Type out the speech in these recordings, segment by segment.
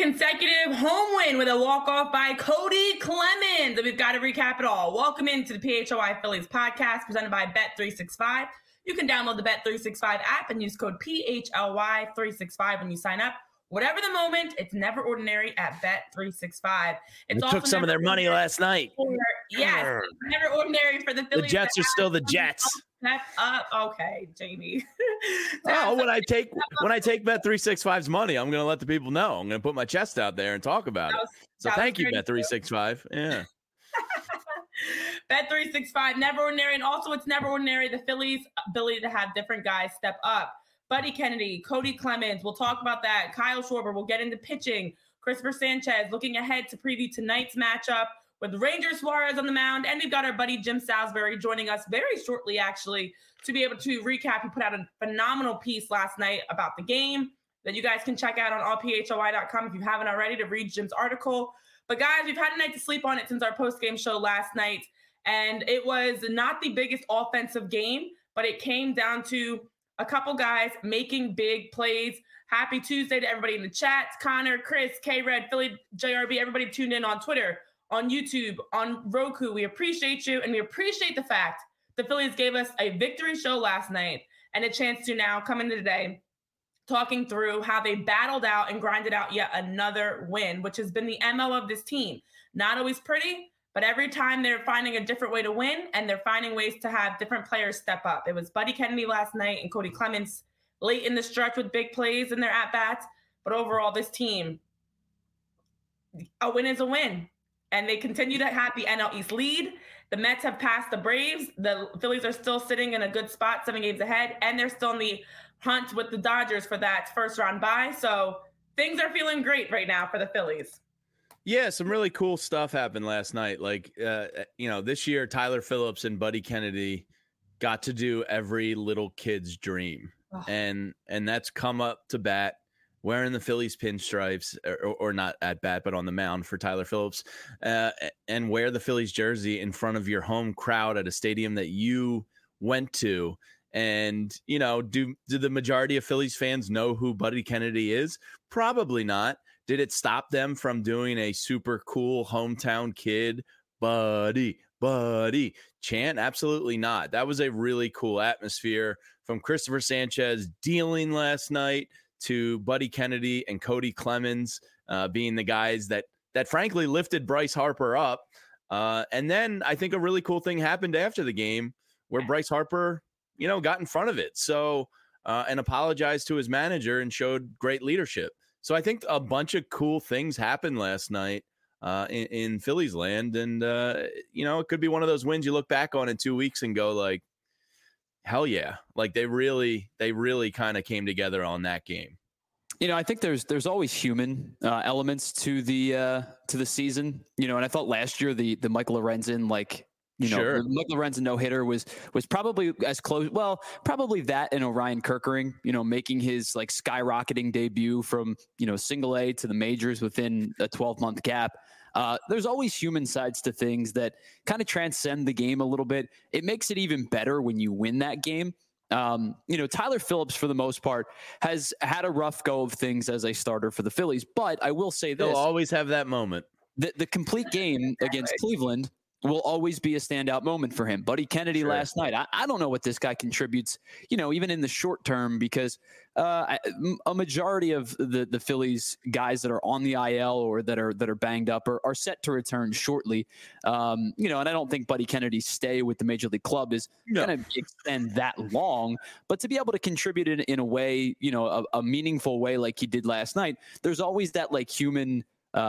consecutive home win with a walk-off by Cody Clemens. We've got to recap it all. Welcome into the PHLY Phillies podcast presented by Bet365. You can download the Bet365 app and use code PHLY365 when you sign up. Whatever the moment, it's never ordinary at Bet365. It took some of their money last night. Yes, it's never ordinary for the Phillies. The Jets are still the Jets. Okay, Jamie. When I take Bet365's money, I'm going to let the people know. I'm going to put my chest out there and talk about it. So thank you, Bet365. Yeah. Bet365, never ordinary. And also, it's never ordinary the Phillies' ability to have different guys step up. Buddy Kennedy, Cody Clemens, we'll talk about that. Kyle Schwarber, we'll get into pitching. Christopher Sanchez, looking ahead to preview tonight's matchup with Ranger Suarez on the mound. And we've got our buddy Jim Salisbury joining us very shortly, actually, to be able to recap. He put out a phenomenal piece last night about the game that you guys can check out on allphly.com if you haven't already to read Jim's article. But guys, we've had a night to sleep on it since our post-game show last night. And it was not the biggest offensive game, but it came down to a couple guys making big plays. Happy Tuesday to everybody in the chats. Connor, Chris, K-Red, Philly, JRB, everybody tuned in on Twitter, on YouTube, on Roku. We appreciate you, and we appreciate the fact the Phillies gave us a victory show last night and a chance to now come into today talking through how they battled out and grinded out yet another win, which has been the MO of this team. Not always pretty, but every time they're finding a different way to win, and they're finding ways to have different players step up. It was Buddy Kennedy last night and Cody Clemens late in the stretch with big plays in their at-bats. But overall, this team, a win is a win. And they continue to have the NL East lead. The Mets have passed the Braves. The Phillies are still sitting in a good spot, 7 games ahead. And they're still in the hunt with the Dodgers for that first-round bye. So things are feeling great right now for the Phillies. Yeah, some really cool stuff happened last night. Like, this year, Tyler Phillips and Buddy Kennedy got to do every little kid's dream. Oh. And that's come up to bat, wearing the Phillies pinstripes, or not at bat, but on the mound for Tyler Phillips, and wear the Phillies jersey in front of your home crowd at a stadium that you went to. And, do the majority of Phillies fans know who Buddy Kennedy is? Probably not. Did it stop them from doing a super cool hometown kid, Buddy chant? Absolutely not. That was a really cool atmosphere from Christopher Sanchez dealing last night to Buddy Kennedy and Cody Clemens being the guys that frankly lifted Bryce Harper up. And then I think a really cool thing happened after the game where Bryce Harper, got in front of it. So, and apologized to his manager and showed great leadership. So I think a bunch of cool things happened last night in Phillies land. And, it could be one of those wins you look back on in 2 weeks and go like, hell yeah. Like they really kind of came together on that game. I think there's always human elements to the season, and I thought last year the Michael Lorenzen, Sure. The Michael Lorenzen no-hitter was probably as close. Well, probably that and Orion Kerkering, making his skyrocketing debut from, single A to the majors within a 12-month gap. There's always human sides to things that kind of transcend the game a little bit. It makes it even better when you win that game. Tyler Phillips, for the most part, has had a rough go of things as a starter for the Phillies. But I will say this. They'll always have that moment. The complete game against Cleveland will always be a standout moment for him. Buddy Kennedy last night. I don't know what this guy contributes, even in the short term, because a majority of the Phillies guys that are on the IL or that are banged up are set to return shortly. And I don't think Buddy Kennedy's stay with the Major League Club is going to extend that long, but to be able to contribute in a way, a meaningful way like he did last night, there's always that human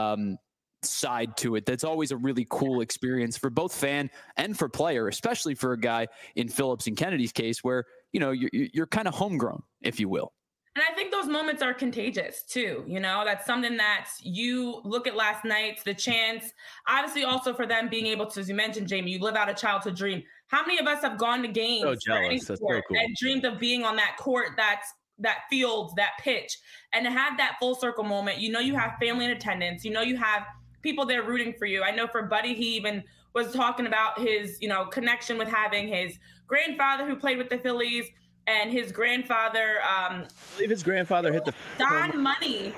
side to it. That's always a really cool experience for both fan and for player, especially for a guy in Phillips and Kennedy's case where, you're kind of homegrown, if you will. And I think those moments are contagious too. That's something that you look at last night, the chance, obviously also for them being able to, as you mentioned, Jamie, you live out a childhood dream. How many of us have gone to games That's so cool. and dreamed of being on that court, that field, that pitch, and to have that full circle moment? You have family in attendance, you have people there rooting for you. I know for Buddy, he even was talking about his, connection with having his grandfather who played with the Phillies and his grandfather. I believe his grandfather hit the Don Money.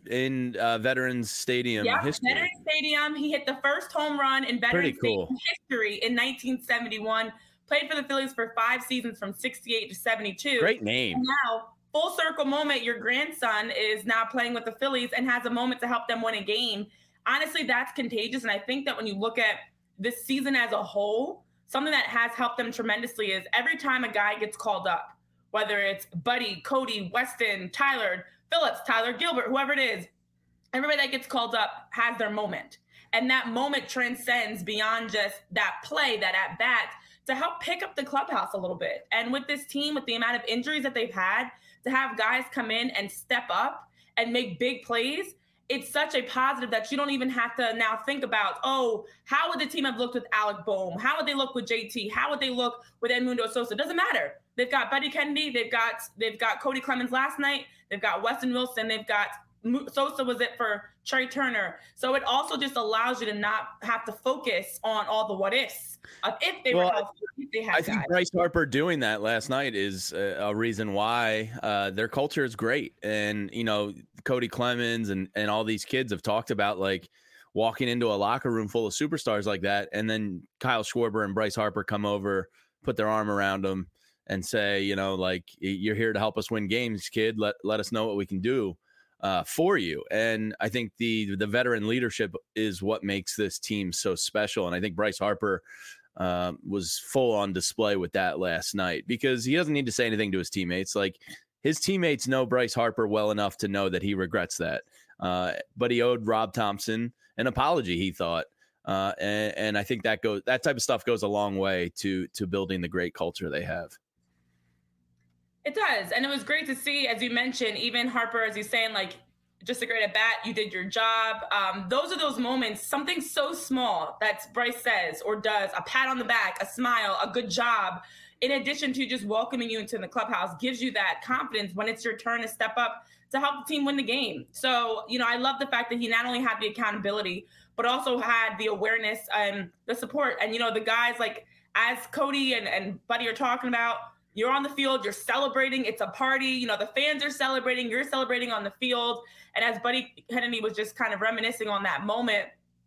in Veterans Stadium history. Veterans Stadium. He hit the first home run in Veterans Stadium history in 1971. Played for the Phillies for 5 seasons from 68 to 72. Great name. And now, full circle moment, your grandson is now playing with the Phillies and has a moment to help them win a game. Honestly, that's contagious. And I think that when you look at this season as a whole, something that has helped them tremendously is every time a guy gets called up, whether it's Buddy, Cody, Weston, Tyler Phillips, Tyler Gilbert, whoever it is, everybody that gets called up has their moment. And that moment transcends beyond just that play, that at bat, to help pick up the clubhouse a little bit. And with this team, with the amount of injuries that they've had, to have guys come in and step up and make big plays, it's such a positive that you don't even have to now think about, oh, how would the team have looked with Alec Boehm? How would they look with JT? How would they look with Edmundo Sosa? It doesn't matter. They've got Buddy Kennedy. They've got Cody Clemens last night. They've got Weston Wilson. They've got Sosa was it for Trey Turner. So it also just allows you to not have to focus on all the what ifs of if they were healthy, if they had I think Bryce Harper doing that last night is a reason why their culture is great. And, you know, Cody Clemens and all these kids have talked about like walking into a locker room full of superstars like that. And then Kyle Schwarber and Bryce Harper come over, put their arm around them and say, you know, like, you're here to help us win games, kid. Let us know what we can do for you. And I think the veteran leadership is what makes this team so special. And I think Bryce Harper was full on display with that last night, because he doesn't need to say anything to his teammates. Like, his teammates know Bryce Harper well enough to know that he regrets that. But he owed Rob Thompson an apology, he thought. And I think that type of stuff goes a long way to building the great culture they have. It does. And it was great to see, as you mentioned, even Harper, as he's saying, like, just a great at bat, you did your job. Those are those moments, something so small that Bryce says or does, a pat on the back, a smile, a good job, in addition to just welcoming you into the clubhouse, gives you that confidence when it's your turn to step up to help the team win the game. So, you know, I love the fact that he not only had the accountability, but also had the awareness and the support. And, you know, the guys like, as Cody and Buddy are talking about, you're on the field, you're celebrating, it's a party, you know, the fans are celebrating, you're celebrating on the field. And as Buddy Kennedy was just kind of reminiscing on that moment,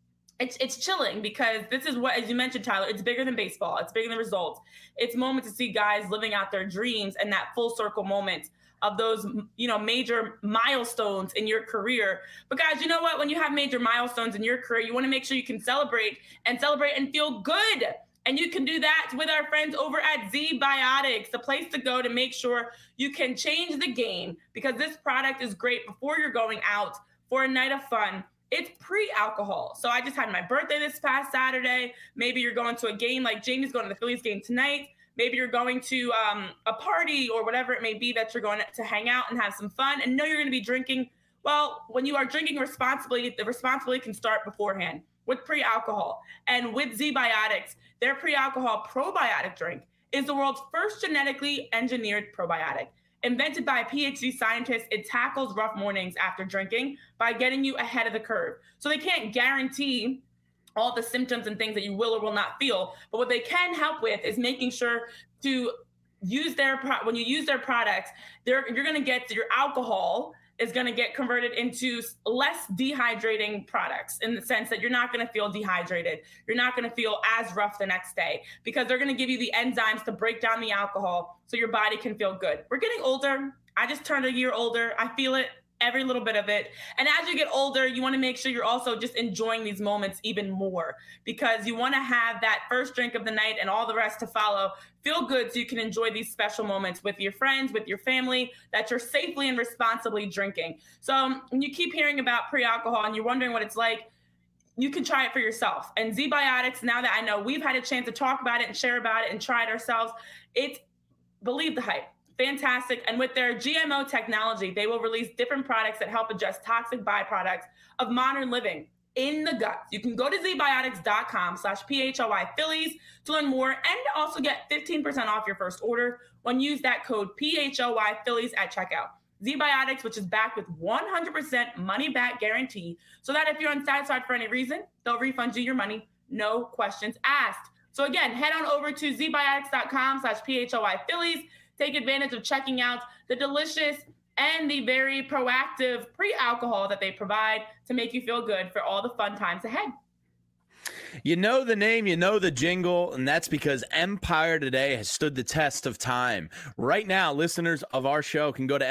it's chilling, because this is what, as you mentioned, Tyler, it's bigger than baseball. It's bigger than results. It's a moment to see guys living out their dreams, and that full circle moment of those, you know, major milestones in your career. But guys, you know what? When you have major milestones in your career, you want to make sure you can celebrate and feel good. And you can do that with our friends over at ZBiotics, the place to go to make sure you can change the game, because this product is great before you're going out for a night of fun. It's pre-alcohol. So I just had my birthday this past Saturday. Maybe you're going to a game, like Jamie's going to the Phillies game tonight. Maybe you're going to a party or whatever it may be that you're going to hang out and have some fun and know you're going to be drinking. Well, when you are drinking responsibly, the responsibility can start beforehand with pre-alcohol. And with ZBiotics, their pre-alcohol probiotic drink is the world's first genetically engineered probiotic. Invented by PhD scientists, it tackles rough mornings after drinking by getting you ahead of the curve. So they can't guarantee all the symptoms and things that you will or will not feel, but what they can help with is making sure to use when you use their products, you're going to get your alcohol is going to get converted into less dehydrating products, in the sense that you're not going to feel dehydrated. You're not going to feel as rough the next day, because they're going to give you the enzymes to break down the alcohol so your body can feel good. We're getting older. I just turned a year older. I feel it, every little bit of it. And as you get older, you want to make sure you're also just enjoying these moments even more, because you want to have that first drink of the night and all the rest to follow feel good, so you can enjoy these special moments with your friends, with your family, that you're safely and responsibly drinking. So when you keep hearing about pre-alcohol and you're wondering what it's like, you can try it for yourself. And ZBiotics, now that I know we've had a chance to talk about it and share about it and try it ourselves, it's, believe the hype. Fantastic. And with their GMO technology, they will release different products that help address toxic byproducts of modern living in the gut. You can go to zbiotics.com/PHLY Phillies to learn more, and also get 15% off your first order when you use that code PHLY Phillies at checkout. ZBiotics, which is backed with 100% money back guarantee, so that if you're unsatisfied for any reason, they'll refund you your money, no questions asked. So again, head on over to zbiotics.com/PHLY Phillies. Take advantage of checking out the delicious and the very proactive pre-alcohol that they provide to make you feel good for all the fun times ahead. You know the name, you know the jingle, and that's because Empire Today has stood the test of time. Right now, listeners of our show can go to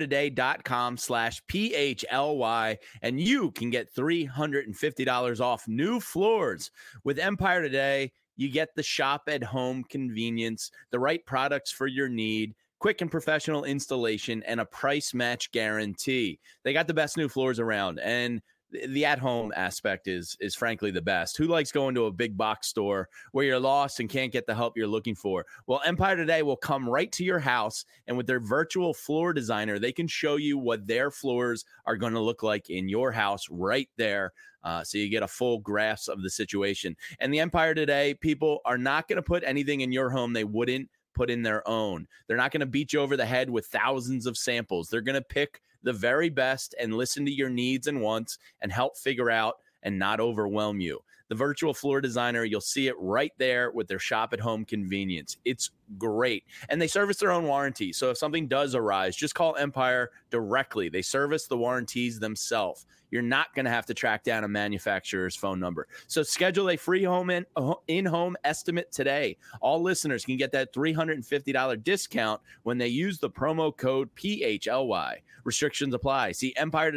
empiretoday.com/PHLY, and you can get $350 off new floors. With Empire Today, you get the shop at home convenience, the right products for your need, quick and professional installation, and a price match guarantee. They got the best new floors around, and the at-home aspect is frankly the best. Who likes going to a big box store where you're lost and can't get the help you're looking for? Well, Empire Today will come right to your house, and with their virtual floor designer, they can show you what their floors are going to look like in your house right there. So you get a full grasp of the situation. And the Empire Today people are not going to put anything in your home they wouldn't put in their own. They're not going to beat you over the head with thousands of samples. They're going to pick the very best and listen to your needs and wants and help figure out and not overwhelm you. The virtual floor designer, you'll see it right there with their shop at home convenience. It's great. And they service their own warranty. So if something does arise, just call Empire directly. They service the warranties themselves. You're not going to have to track down a manufacturer's phone number. So schedule a free in-home estimate today. All listeners can get that $350 discount when they use the promo code PHLY. Restrictions apply. See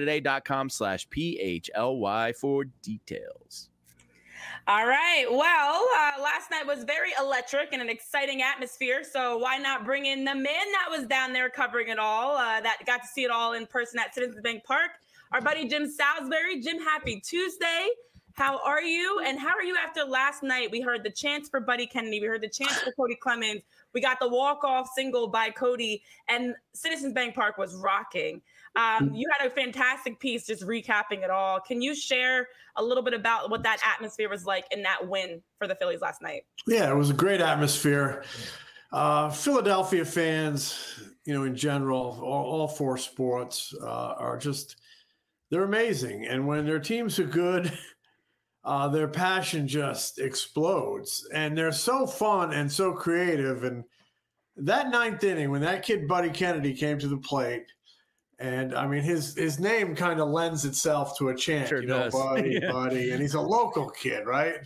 empiretoday.com/PHLY for details. All right. Well, last night was very electric and an exciting atmosphere. So why not bring in the man that was down there covering it all, that got to see it all in person at Citizens Bank Park, our buddy Jim Salisbury. Jim, happy Tuesday. How are you? And how are you after last night? We heard the chants for Buddy Kennedy. We heard the chants for Cody Clemens. We got the walk-off single by Cody, and Citizens Bank Park was rocking. You had a fantastic piece just recapping it all. Can you share a little bit about what that atmosphere was like in that win for the Phillies last night? Yeah, it was a great atmosphere. Philadelphia fans, in general, all four sports are just, they're amazing. And when their teams are good, their passion just explodes. And they're so fun and so creative. And that ninth inning, when that kid Buddy Kennedy came to the plate, and I mean, his name kind of lends itself to a chant, Sure does. Buddy, Yeah. Buddy, and he's a local kid, right?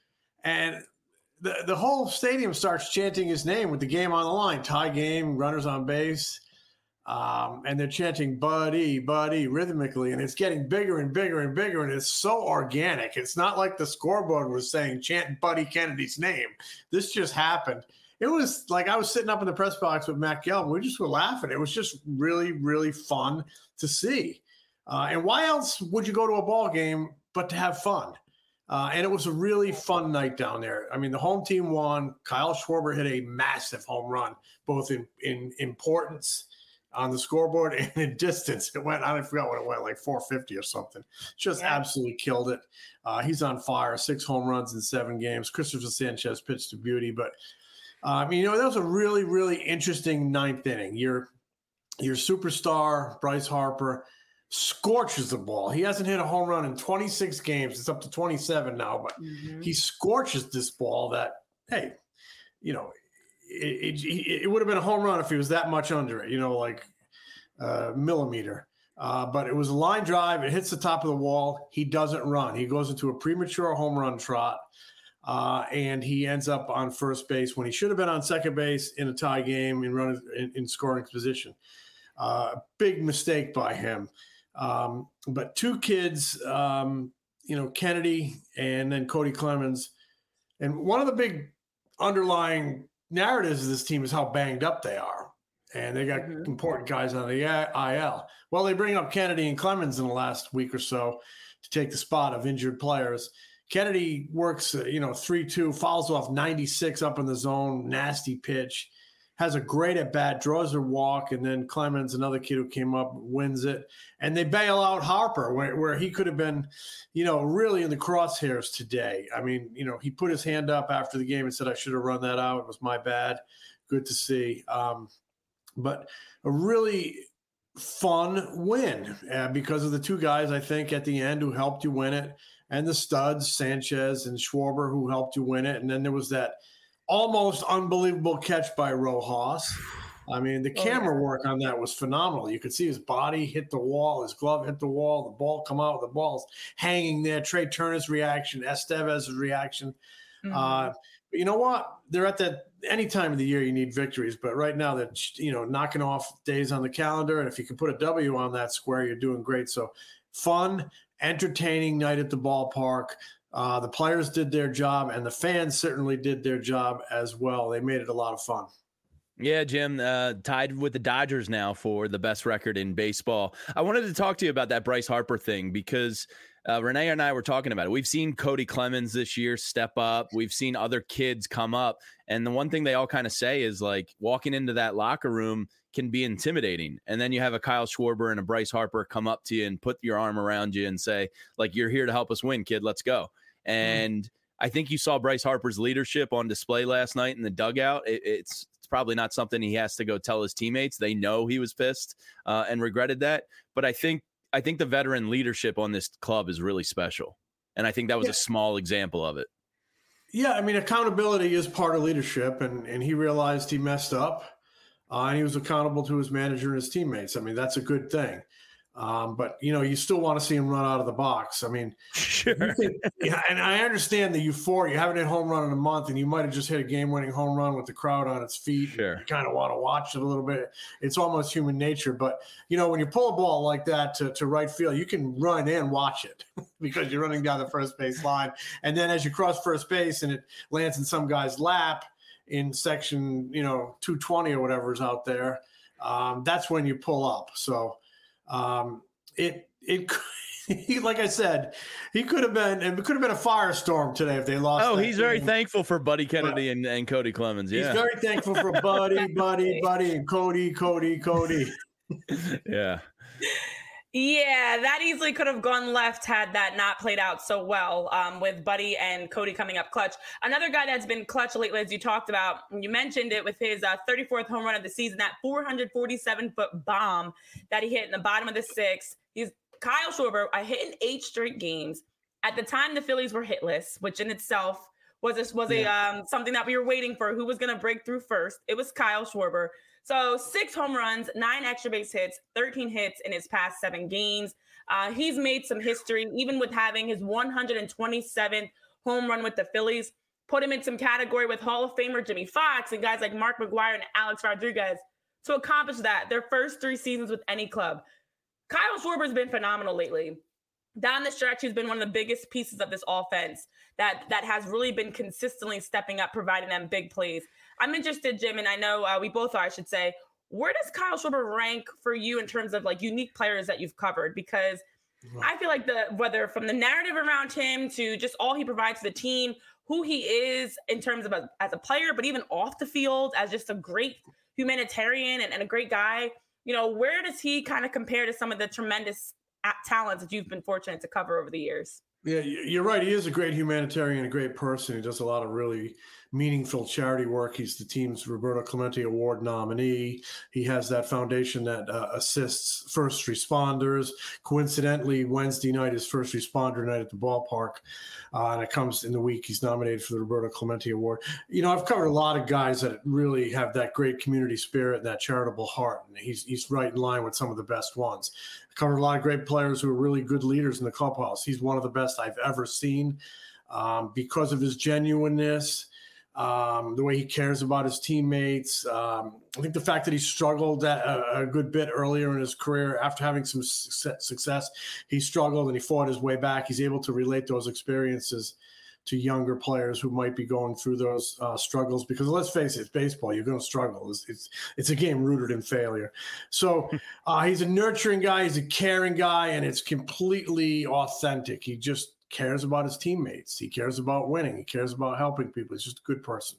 And the whole stadium starts chanting his name with the game on the line, tie game, runners on base, and they're chanting Buddy, Buddy rhythmically, and it's getting bigger and bigger and bigger, and it's so organic. It's not like the scoreboard was saying chant Buddy Kennedy's name. This just happened. It was like I was sitting up in the press box with Matt Gelb. We just were laughing. It was just really, really fun to see. And why else would you go to a ball game but to have fun? And it was a really fun night down there. I mean, the home team won. Kyle Schwarber hit a massive home run, both in importance on the scoreboard and in distance. It went, I forgot what it went, like 450 or something. Just absolutely killed it. He's on fire, 6 home runs in 7 games. Christopher Sanchez pitched to beauty, but that was a really, really interesting ninth inning. Your superstar, Bryce Harper, scorches the ball. He hasn't hit a home run in 26 games. It's up to 27 now, but he scorches this ball that, hey, it would have been a home run if he was that much under it, like millimeter. But it was a line drive. It hits the top of the wall. He doesn't run. He goes into a premature home run trot. And he ends up on first base when he should have been on second base in a tie game in scoring position. Big mistake by him. But 2 kids, Kennedy and then Cody Clemens. And one of the big underlying narratives of this team is how banged up they are. And they got important guys on the IL. Well, they bring up Kennedy and Clemens in the last week or so to take the spot of injured players. Kennedy works, 3-2, fouls off 96 up in the zone, nasty pitch, has a great at-bat, draws a walk, and then Clemens, another kid who came up, wins it. And they bail out Harper, where he could have been, really in the crosshairs today. I mean, he put his hand up after the game and said, I should have run that out. It was my bad. Good to see. But a really fun win because of the 2 guys, I think, at the end who helped you win it. And the studs, Sanchez and Schwarber, who helped you win it. And then there was that almost unbelievable catch by Rojas. I mean, the camera work on that was phenomenal. You could see his body hit the wall, his glove hit the wall, the ball come out, the ball's hanging there. Trey Turner's reaction, Estevez's reaction. But you know what? They're at that any time of the year you need victories, but right now they're knocking off days on the calendar, and if you can put a W on that square, you're doing great. So fun, entertaining night at the ballpark. The players did their job, and the fans certainly did their job as well. They made it a lot of fun. Yeah, Jim, tied with the Dodgers now for the best record in baseball. I wanted to talk to you about that Bryce Harper thing because Renee and I were talking about it. We've seen Cody Clemens this year step up. We've seen other kids come up. And the one thing they all kind of say is like walking into that locker room can be intimidating. And then you have a Kyle Schwarber and a Bryce Harper come up to you and put your arm around you and say, like, you're here to help us win, kid. Let's go. And I think you saw Bryce Harper's leadership on display last night in the dugout. It's probably not something he has to go tell his teammates. They know he was pissed and regretted that. But I think the veteran leadership on this club is really special. And I think that was a small example of it. Yeah, I mean, accountability is part of leadership, and he realized he messed up, and he was accountable to his manager and his teammates. I mean, that's a good thing. But, you still want to see him run out of the box. I mean, sure. And I understand the euphoria. You haven't hit home run in a month, and you might have just hit a game-winning home run with the crowd on its feet. Sure. You kind of want to watch it a little bit. It's almost human nature. But, when you pull a ball like that to right field, you can run and watch it because you're running down the first base line. And then as you cross first base and it lands in some guy's lap in section, 220 or whatever's out there, that's when you pull up. So, like I said, it could have been a firestorm today if they lost. Oh, he's very thankful for Buddy Kennedy and Cody Clemens. Yeah, he's very thankful for Buddy, and Cody. Yeah. Yeah, that easily could have gone left had that not played out so well with Buddy and Cody coming up clutch. Another guy that's been clutch lately, as you talked about, you mentioned it with his 34th home run of the season, that 447-foot bomb that he hit in the bottom of the sixth. He's Kyle Schwarber, hit in 8 straight games. At the time, the Phillies were hitless, which in itself was something that we were waiting for. Who was going to break through first? It was Kyle Schwarber. So 6 home runs, 9 extra base hits, 13 hits in his past 7 games. He's made some history, even with having his 127th home run with the Phillies. Put him in some category with Hall of Famer Jimmy Fox and guys like Mark McGwire and Alex Rodriguez to accomplish that, their first 3 seasons with any club. Kyle Schwarber's been phenomenal lately. Down the stretch, he's been one of the biggest pieces of this offense that has really been consistently stepping up, providing them big plays. I'm interested, Jim, and I know we both are, I should say, where does Kyle Schwarber rank for you in terms of like unique players that you've covered? Because I feel like whether from the narrative around him to just all he provides to the team, who he is in terms of as a player, but even off the field as just a great humanitarian and a great guy, where does he kind of compare to some of the tremendous talents that you've been fortunate to cover over the years? Yeah, you're right. He is a great humanitarian, a great person. He does a lot of really meaningful charity work. He's the team's Roberto Clemente Award nominee. He has that foundation that assists first responders. Coincidentally, Wednesday night is first responder night at the ballpark. And it comes in the week he's nominated for the Roberto Clemente Award. I've covered a lot of guys that really have that great community spirit and that charitable heart. And he's right in line with some of the best ones. I covered a lot of great players who are really good leaders in the clubhouse. He's one of the best I've ever seen because of his genuineness, the way he cares about his teammates. I think the fact that he struggled a good bit earlier in his career after having some success, he struggled and he fought his way back. He's able to relate those experiences to younger players who might be going through those struggles, because let's face it, it's baseball. You're going to struggle. It's a game rooted in failure. So he's a nurturing guy. He's a caring guy, and it's completely authentic. He just cares about his teammates. He cares about winning. He cares about helping people. He's just a good person.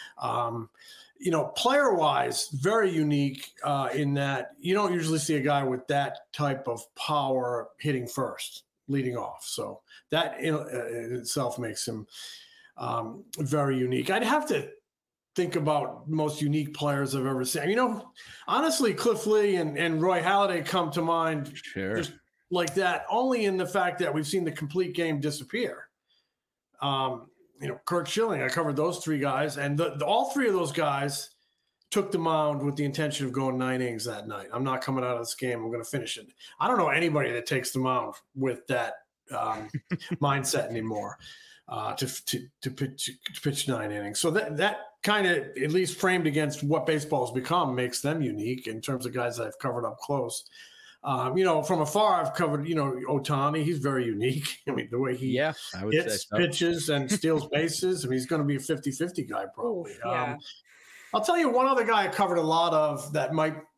Player-wise, very unique in that you don't usually see a guy with that type of power hitting first, leading off. So that in itself makes him very unique. I'd have to think about most unique players I've ever seen. Honestly, Cliff Lee and Roy Halladay come to mind. Sure. Just like that, only in the fact that we've seen the complete game disappear. Kurt Schilling, I covered those 3 guys, and all 3 of those guys took the mound with the intention of going 9 innings that night. I'm not coming out of this game. I'm going to finish it. I don't know anybody that takes the mound with that mindset anymore to pitch 9 innings. So that kind of, at least framed against what baseball has become, makes them unique in terms of guys that I've covered up close. From afar, I've covered, Ohtani. He's very unique. I mean, the way he hits, pitches, and steals bases. I mean, he's going to be a 50-50 guy probably. Ooh, yeah. I'll tell you one other guy I covered a lot of that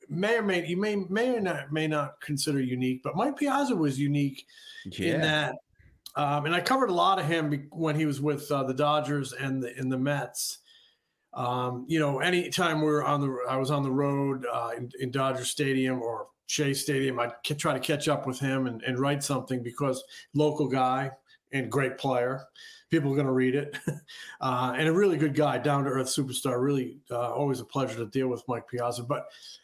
may not consider unique, but Mike Piazza was unique in that. And I covered a lot of him when he was with the Dodgers and the Mets. Anytime I was on the road in Dodger Stadium or Shea Stadium, I'd try to catch up with him and write something, because local guy and great player. People are going to read it. And a really good guy, down-to-earth superstar. Really always a pleasure to deal with Mike Piazza. But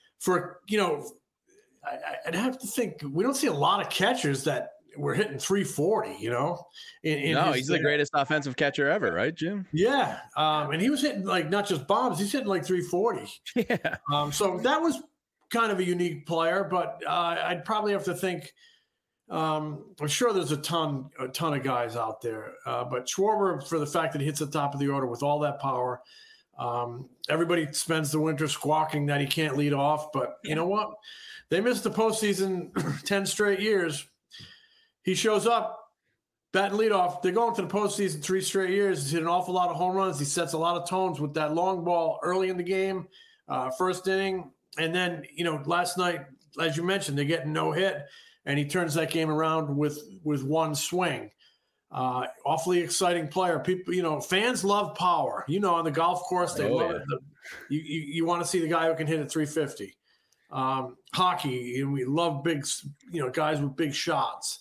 I'd have to think, we don't see a lot of catchers that were hitting 340, No, he's the greatest offensive catcher ever, right, Jim? Yeah. And he was hitting not just bombs, he's hitting 340. Yeah. So that was kind of a unique player, but I'd probably have to think, I'm sure there's a ton of guys out there, but Schwarber, for the fact that he hits the top of the order with all that power, everybody spends the winter squawking that he can't lead off, but you know what? They missed the postseason 10 straight years. He shows up, batting leadoff. They're going to the postseason 3 straight years. He's hit an awful lot of home runs. He sets a lot of tones with that long ball early in the game, first inning. And then, last night, as you mentioned, they're getting no hit, and he turns that game around with one swing. Awfully exciting player. People, fans love power. On the golf course, they love it. You want to see the guy who can hit at 350. Hockey, we love big, guys with big shots.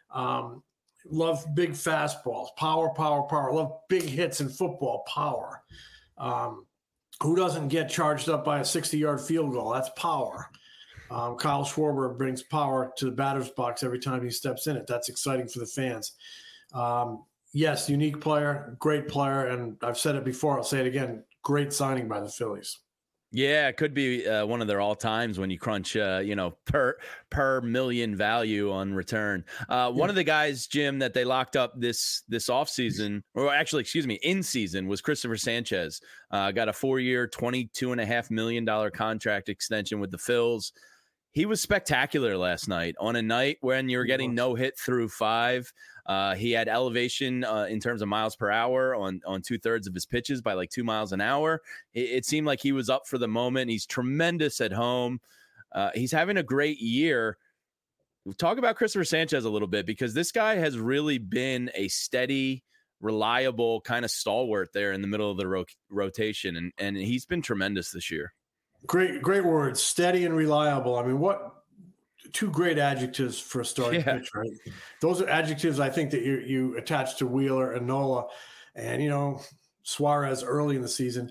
Love big fastballs, power. Love big hits in football, power. Who doesn't get charged up by a 60-yard field goal? That's power. Kyle Schwarber brings power to the batter's box every time he steps in it. That's exciting for the fans. Yes, unique player, great player, and I've said it before, I'll say it again, great signing by the Phillies. Yeah, it could be one of their all times when you crunch, per million value on return. One of the guys, Jim, that they locked up this offseason, or actually, in season, was Christopher Sanchez. Got a 4-year, $22.5 million contract extension with the Phils. He was spectacular last night on a night when you were getting no hit through 5. He had elevation in terms of miles per hour on 2/3 of his pitches by 2 miles an hour. It seemed like he was up for the moment. He's tremendous at home. He's having a great year. Talk about Christopher Sanchez a little bit, because this guy has really been a steady, reliable kind of stalwart there in the middle of the rotation, and he's been tremendous this year. Great words, steady and reliable. I mean, what 2 great adjectives for a starting pitch, right? Those are adjectives I think that you attach to Wheeler and Nola, and Suarez early in the season.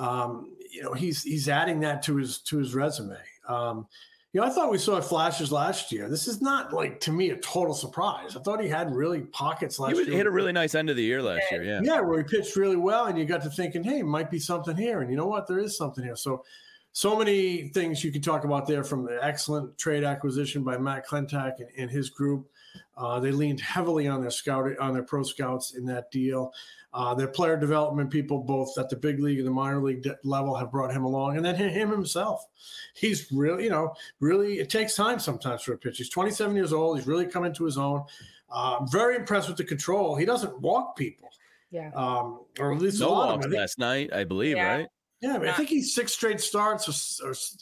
He's adding that to his resume. I thought we saw flashes last year. This is not to me a total surprise. I thought he had really pockets last year. He hit a really nice end of the year last year. Yeah. Yeah, where he pitched really well, and you got to thinking, hey, might be something here. And you know what? There is something here. So many things you could talk about there, from the excellent trade acquisition by Matt Klentak and his group. They leaned heavily on their pro scouts in that deal. Their player development people, both at the big league and the minor league level, have brought him along. And then him himself. He's really, really, it takes time sometimes for a pitcher. He's 27 years old. He's really come into his own. Very impressed with the control. He doesn't walk people. Yeah. Or at least no walks last night, I believe, right? Yeah, I think he's 6 straight starts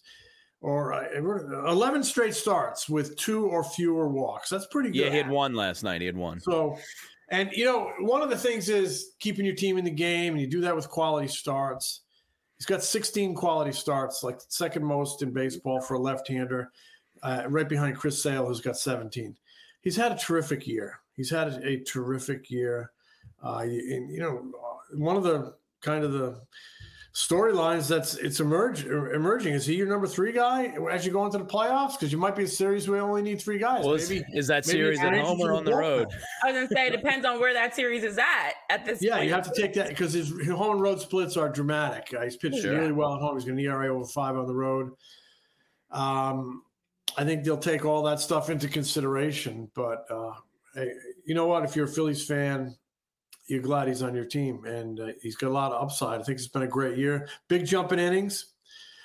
or 11 straight starts with 2 or fewer walks. That's pretty good. Yeah, he had 1 last night. So, and one of the things is keeping your team in the game, and you do that with quality starts. He's got 16 quality starts, second most in baseball for a left-hander, right behind Chris Sale, who's got 17. He's had a terrific year. And, one of the kind of storylines it's emerging. Is he your number 3 guy as you go into the playoffs? Because you might be a series where you only need 3 guys. Well, is that series at home or on the road? I was going to say, it depends on where that series is at this point. Yeah, you have to take that because his home and road splits are dramatic. He's pitched really well at home. He's got an ERA over 5 on the road. I think they'll take all that stuff into consideration. But hey, you know what? If you're a Phillies fan, you're glad he's on your team, and he's got a lot of upside. I think it's been a great year. Big jump in innings.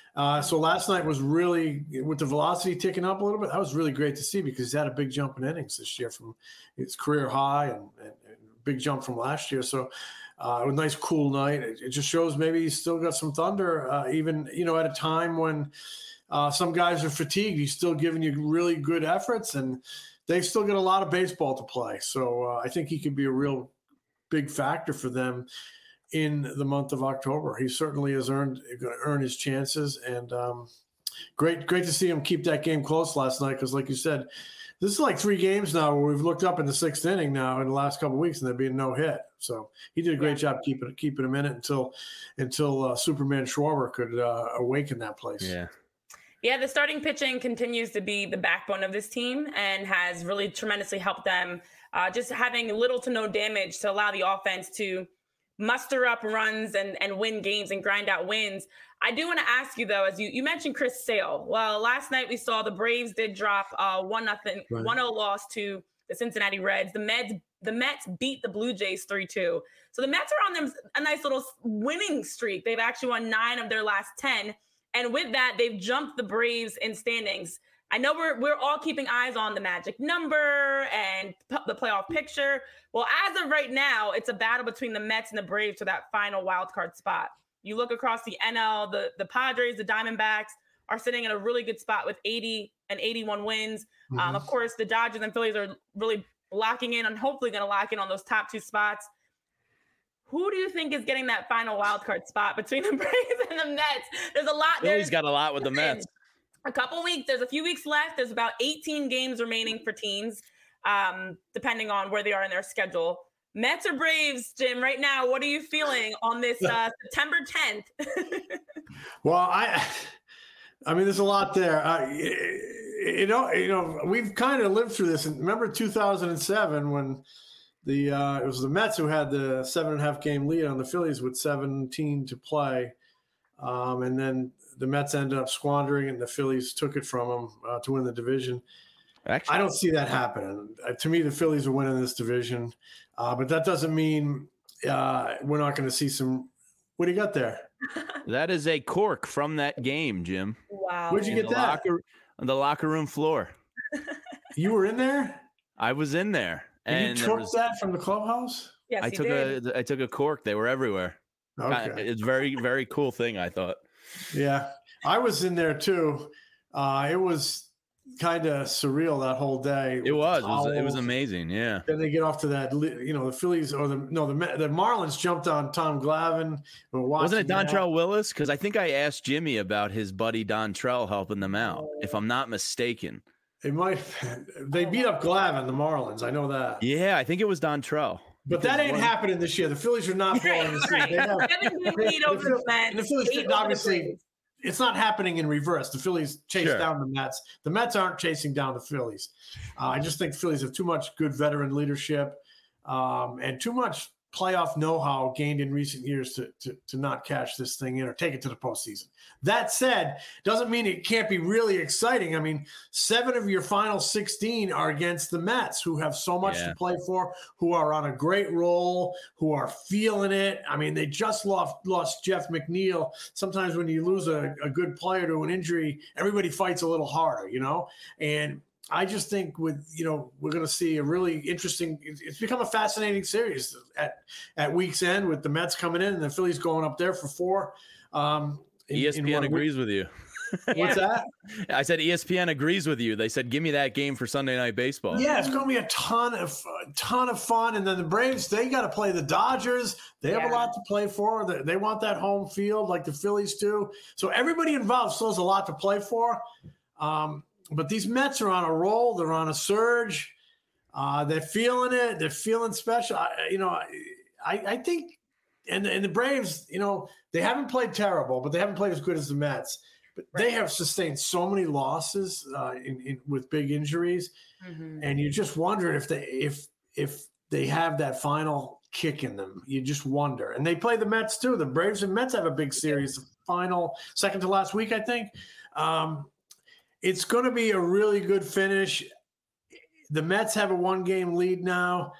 So last night was really, with the velocity ticking up a little bit, that was really great to see because he's had a big jump in innings this year from his career high and big jump from last year. So a nice cool night. It just shows maybe he's still got some thunder, even, at a time when some guys are fatigued. He's still giving you really good efforts, and they've still got a lot of baseball to play. So I think he could be a real big factor for them in the month of October. He certainly has going to earn his chances, and great to see him keep that game close last night. Because, like you said, this is like 3 games now where we've looked up in the 6th inning now in the last couple of weeks, and there being no hit. So he did a great job keeping him in it until Superman Schwarber could awaken that place. Yeah, the starting pitching continues to be the backbone of this team and has really tremendously helped them. Just having little to no damage to allow the offense to muster up runs and win games and grind out wins. I do want to ask you, though, as you mentioned Chris Sale. Well, last night we saw the Braves did drop 1-0 loss to the Cincinnati Reds. The Mets beat the Blue Jays 3-2. So the Mets are on them a nice little winning streak. They've actually won 9 of their last 10. And with that, they've jumped the Braves in standings. I know we're all keeping eyes on the magic number and the playoff picture. Well, as of right now, it's a battle between the Mets and the Braves for that final wild card spot. You look across the NL, the Padres, the Diamondbacks are sitting in a really good spot with 80 and 81 wins. Mm-hmm. Of course, the Dodgers and Phillies are really locking in and hopefully going to lock in on those top 2 spots. Who do you think is getting that final wild card spot between the Braves and the Mets? There's a lot there. Philly's got a lot with the Mets. A couple weeks. There's a few weeks left. There's about 18 games remaining for teams, depending on where they are in their schedule. Mets or Braves, Jim, right now, what are you feeling on this September 10th? Well, I mean, there's a lot there. We've kind of lived through this. And remember 2007 when it was the Mets who had the 7.5 game lead on the Phillies with 17 to play. And then the Mets ended up squandering, and the Phillies took it from them to win the division. Actually, I don't see that happening. To me, the Phillies are winning this division, but that doesn't mean we're not going to see some. What do you got there? That is a cork from that game, Jim. Wow. Where'd you get that? On the locker room floor. You were in there? I was in there. And you took that from the clubhouse? Yes, I took a cork. They were everywhere. Okay. It's very, very cool thing, I thought. Yeah, I was in there too. It was kind of surreal that whole day. It was amazing. Yeah. Then they get off to that, the Phillies or the Marlins jumped on Tom Glavine. Wasn't it Dontrelle Willis? Because I think I asked Jimmy about his buddy Dontrelle helping them out, if I'm not mistaken. It might. They beat up Glavine, the Marlins. I know that. Yeah, I think it was Dontrelle. But that ain't happening this year. The Phillies are not blowing the season. The Phillies, obviously, it's not happening in reverse. The Phillies chase down the Mets. The Mets aren't chasing down the Phillies. I just think the Phillies have too much good veteran leadership and too much playoff know-how gained in recent years to not cash this thing in or take it to the postseason. That said, doesn't mean it can't be really exciting. I mean, 7 of your final 16 are against the Mets, who have so much to play for, who are on a great roll, who are feeling it. I mean, they just lost Jeff McNeil. Sometimes when you lose a good player to an injury, everybody fights a little harder, and I just think we're going to see a really interesting. It's become a fascinating series at week's end with the Mets coming in and the Phillies going up there for 4. ESPN agrees with you. What's that? I said ESPN agrees with you. They said, give me that game for Sunday Night Baseball. Yeah, it's going to be a ton of fun. And then the Braves, they got to play the Dodgers. They have a lot to play for. They want that home field like the Phillies do. So everybody involved still has a lot to play for. But these Mets are on a roll. They're on a surge. They're feeling it. They're feeling special. I think and the Braves, they haven't played terrible, but they haven't played as good as the Mets. But they have sustained so many losses with big injuries, and you just wonder if they have that final kick in them. You just wonder. And they play the Mets too. The Braves and Mets have a big series, final second to last week, I think. It's going to be a really good finish. The Mets have a 1-game lead now.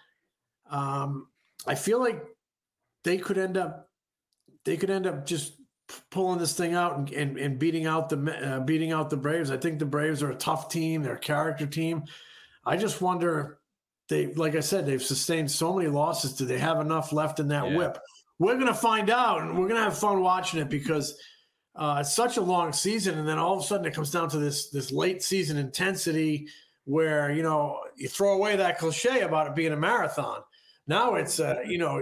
I feel like they could end up just pulling this thing out and beating out the Braves. I think the Braves are a tough team. They're a character team. I just wonder, like I said, they've sustained so many losses. Do they have enough left in that whip? We're going to find out, and we're going to have fun watching it because it's such a long season. And then all of a sudden it comes down to this late season intensity where, you throw away that cliche about it being a marathon. Now it's a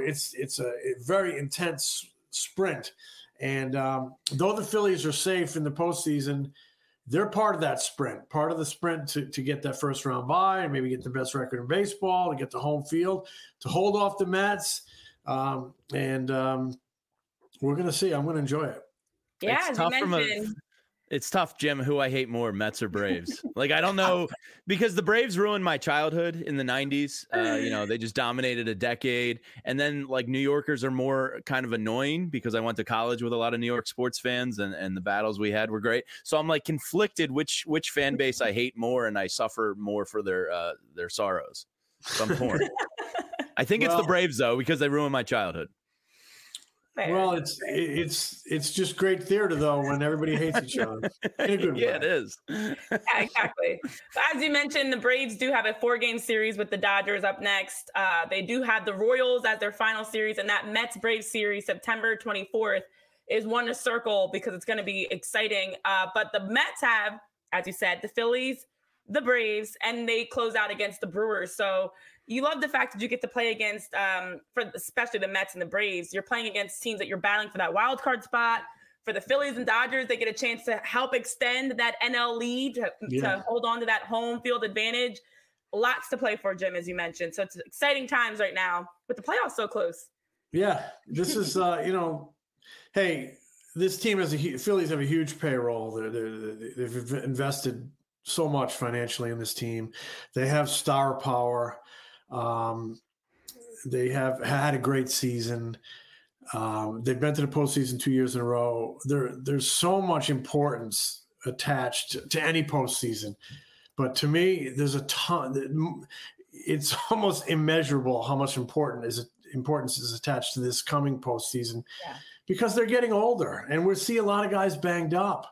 very intense sprint. And though the Phillies are safe in the postseason, they're part of that sprint, part of the sprint to get that first round bye and maybe get the best record in baseball, to get the home field, to hold off the Mets. And we're going to see. I'm going to enjoy it. Yeah, as you mentioned. It's tough, Jim, who I hate more, Mets or Braves. Like, I don't know, because the Braves ruined my childhood in the 90s. They just dominated a decade. And then, like, New Yorkers are more kind of annoying because I went to college with a lot of New York sports fans, and the battles we had were great. So I'm, like, conflicted which fan base I hate more, and I suffer more for their sorrows. So I'm torn. I think it's the Braves, though, because they ruined my childhood. Well, it's just great theater, though, when everybody hates each other. In a good way. Yeah, it is. Yeah, exactly. So as you mentioned, the Braves do have a 4-game series with the Dodgers up next. They do have the Royals as their final series, and that Mets-Braves series, September 24th, is one to circle because it's going to be exciting. But the Mets have, as you said, the Phillies, the Braves, and they close out against the Brewers. So you love the fact that you get to play against, especially the Mets and the Braves. You're playing against teams that you're battling for that wild card spot. For the Phillies and Dodgers, they get a chance to help extend that NL lead to hold on to that home field advantage. Lots to play for, Jim, as you mentioned. So it's exciting times right now with the playoffs so close. Yeah, this is, hey, this team Phillies have a huge payroll. They've invested so much financially in this team. They have star power. They have had a great season. They've been to the postseason 2 years in a row. There's so much importance attached to any postseason, but to me, there's a ton. It's almost immeasurable how much importance is attached to this coming postseason, because they're getting older, and we see a lot of guys banged up.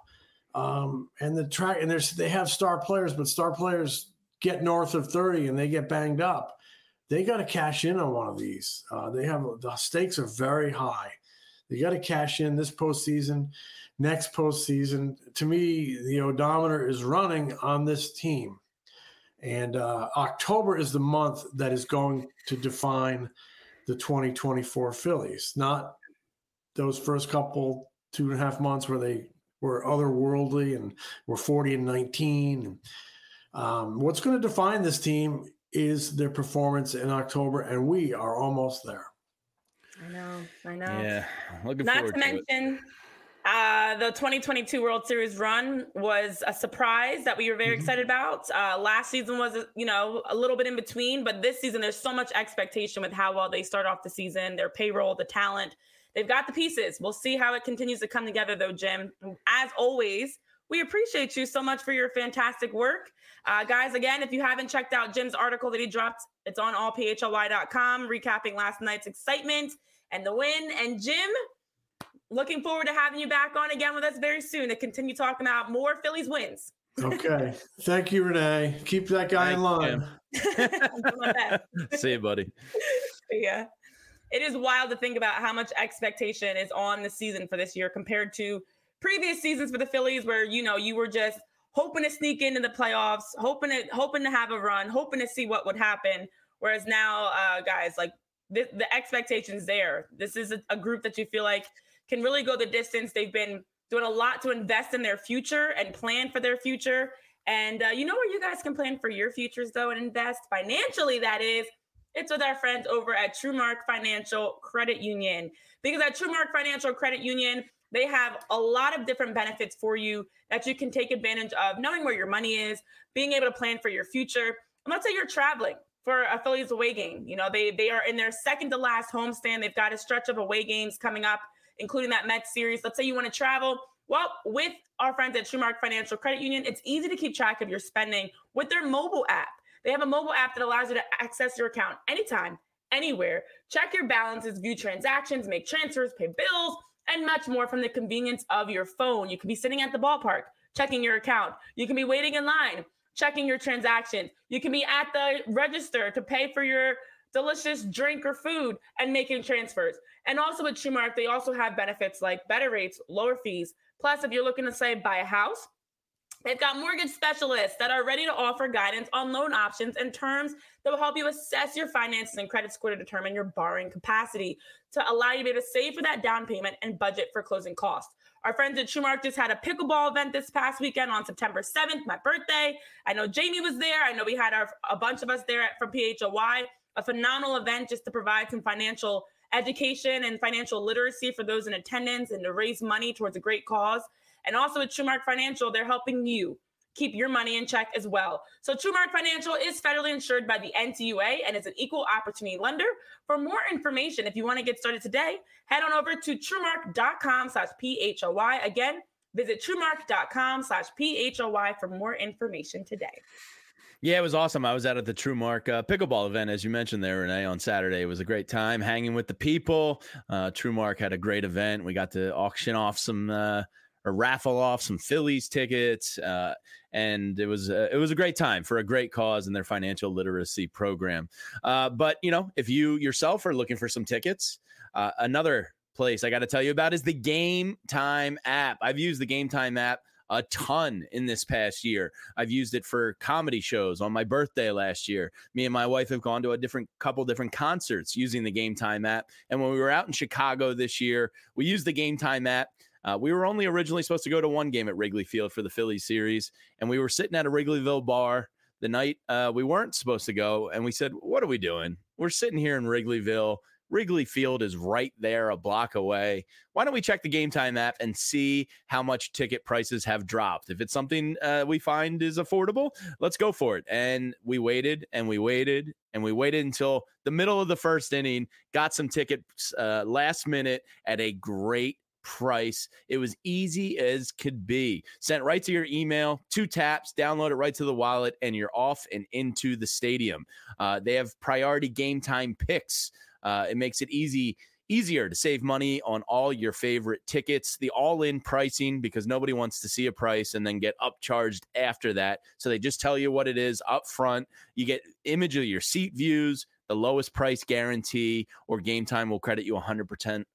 They have star players, but star players get north of 30 and they get banged up. They got to cash in on one of these. The stakes are very high. They got to cash in this postseason, next postseason. To me, the odometer is running on this team. And October is the month that is going to define the 2024 Phillies, not those first couple 2.5 months where they were otherworldly and were 40-19. What's going to define this team is their performance in October, and we are almost there. I know. Yeah, looking Not forward to mention, the 2022 World Series run was a surprise that we were very excited about. Last season was, a little bit in between, but this season there's so much expectation with how well they start off the season, their payroll, the talent. They've got the pieces. We'll see how it continues to come together, though, Jim. As always, we appreciate you so much for your fantastic work. Guys, again, if you haven't checked out Jim's article that he dropped, it's on allphly.com, recapping last night's excitement and the win. And Jim, looking forward to having you back on again with us very soon to continue talking about more Phillies wins. Okay. Thank you, Renee. Keep that guy in line. See you, buddy. Yeah. It is wild to think about how much expectation is on the season for this year compared to previous seasons for the Phillies where, you were just hoping to sneak into the playoffs, hoping to have a run, hoping to see what would happen. Whereas now, guys, like the expectation's there. This is a group that you feel like can really go the distance. They've been doing a lot to invest in their future and plan for their future. And you know where you guys can plan for your futures, though, and invest financially, that is It's with our friends over at TrueMark Financial Credit Union. Because at TrueMark Financial Credit Union, they have a lot of different benefits for you that you can take advantage of, knowing where your money is, being able to plan for your future. And let's say you're traveling for a Phillies away game. You know, they are in their second to last homestand. They've got a stretch of away games coming up, including that Mets series. Let's say you want to travel. Well, with our friends at TrueMark Financial Credit Union, it's easy to keep track of your spending with their mobile app. They have a mobile app that allows you to access your account anytime, anywhere, check your balances, view transactions, make transfers, pay bills, and much more from the convenience of your phone. You can be sitting at the ballpark, checking your account. You can be waiting in line, checking your transactions. You can be at the register to pay for your delicious drink or food and making transfers. And also with TrueMark, they also have benefits like better rates, lower fees. Plus, if you're looking to, say, buy a house, they've got mortgage specialists that are ready to offer guidance on loan options and terms that will help you assess your finances and credit score to determine your borrowing capacity to allow you to be able to save for that down payment and budget for closing costs. Our friends at TrueMark just had a pickleball event this past weekend on September 7th, my birthday. I know Jamie was there. I know we had a bunch of us there from PHLY, a phenomenal event just to provide some financial education and financial literacy for those in attendance and to raise money towards a great cause. And also at TrueMark Financial, they're helping you keep your money in check as well. So TrueMark Financial is federally insured by the NCUA and is an equal opportunity lender. For more information, if you want to get started today, head on over to TrueMark.com/PHLY. Again, visit TrueMark.com/PHLY for more information today. Yeah, it was awesome. I was out at the TrueMark pickleball event, as you mentioned there, Renee, on Saturday. It was a great time hanging with the people. TrueMark had a great event. We got to auction off or raffle off some Phillies tickets. And it was a great time for a great cause in their financial literacy program. But, you know, if you yourself are looking for some tickets, another place I got to tell you about is the Game Time app. I've used the Game Time app a ton in this past year. I've used it for comedy shows on my birthday last year. Me and my wife have gone to a couple different concerts using the Game Time app. And when we were out in Chicago this year, we used the Game Time app. We were only originally supposed to go to one game at Wrigley Field for the Phillies series, and we were sitting at a Wrigleyville bar the night we weren't supposed to go, and we said, what are we doing? We're sitting here in Wrigleyville. Wrigley Field is right there, a block away. Why don't we check the Game Time app and see how much ticket prices have dropped? If it's something we find is affordable, let's go for it. And we waited and we waited and we waited until the middle of the first inning, got some tickets last minute at a great price. It was easy as could be. Sent right to your email, 2 taps, download it right to the wallet, and you're off and into the stadium. They have priority Game Time picks. It makes it easier to save money on all your favorite tickets. The all-in pricing, because nobody wants to see a price and then get upcharged after that. So they just tell you what it is up front. You get image of your seat views, the lowest price guarantee, or Game Time will credit you 110%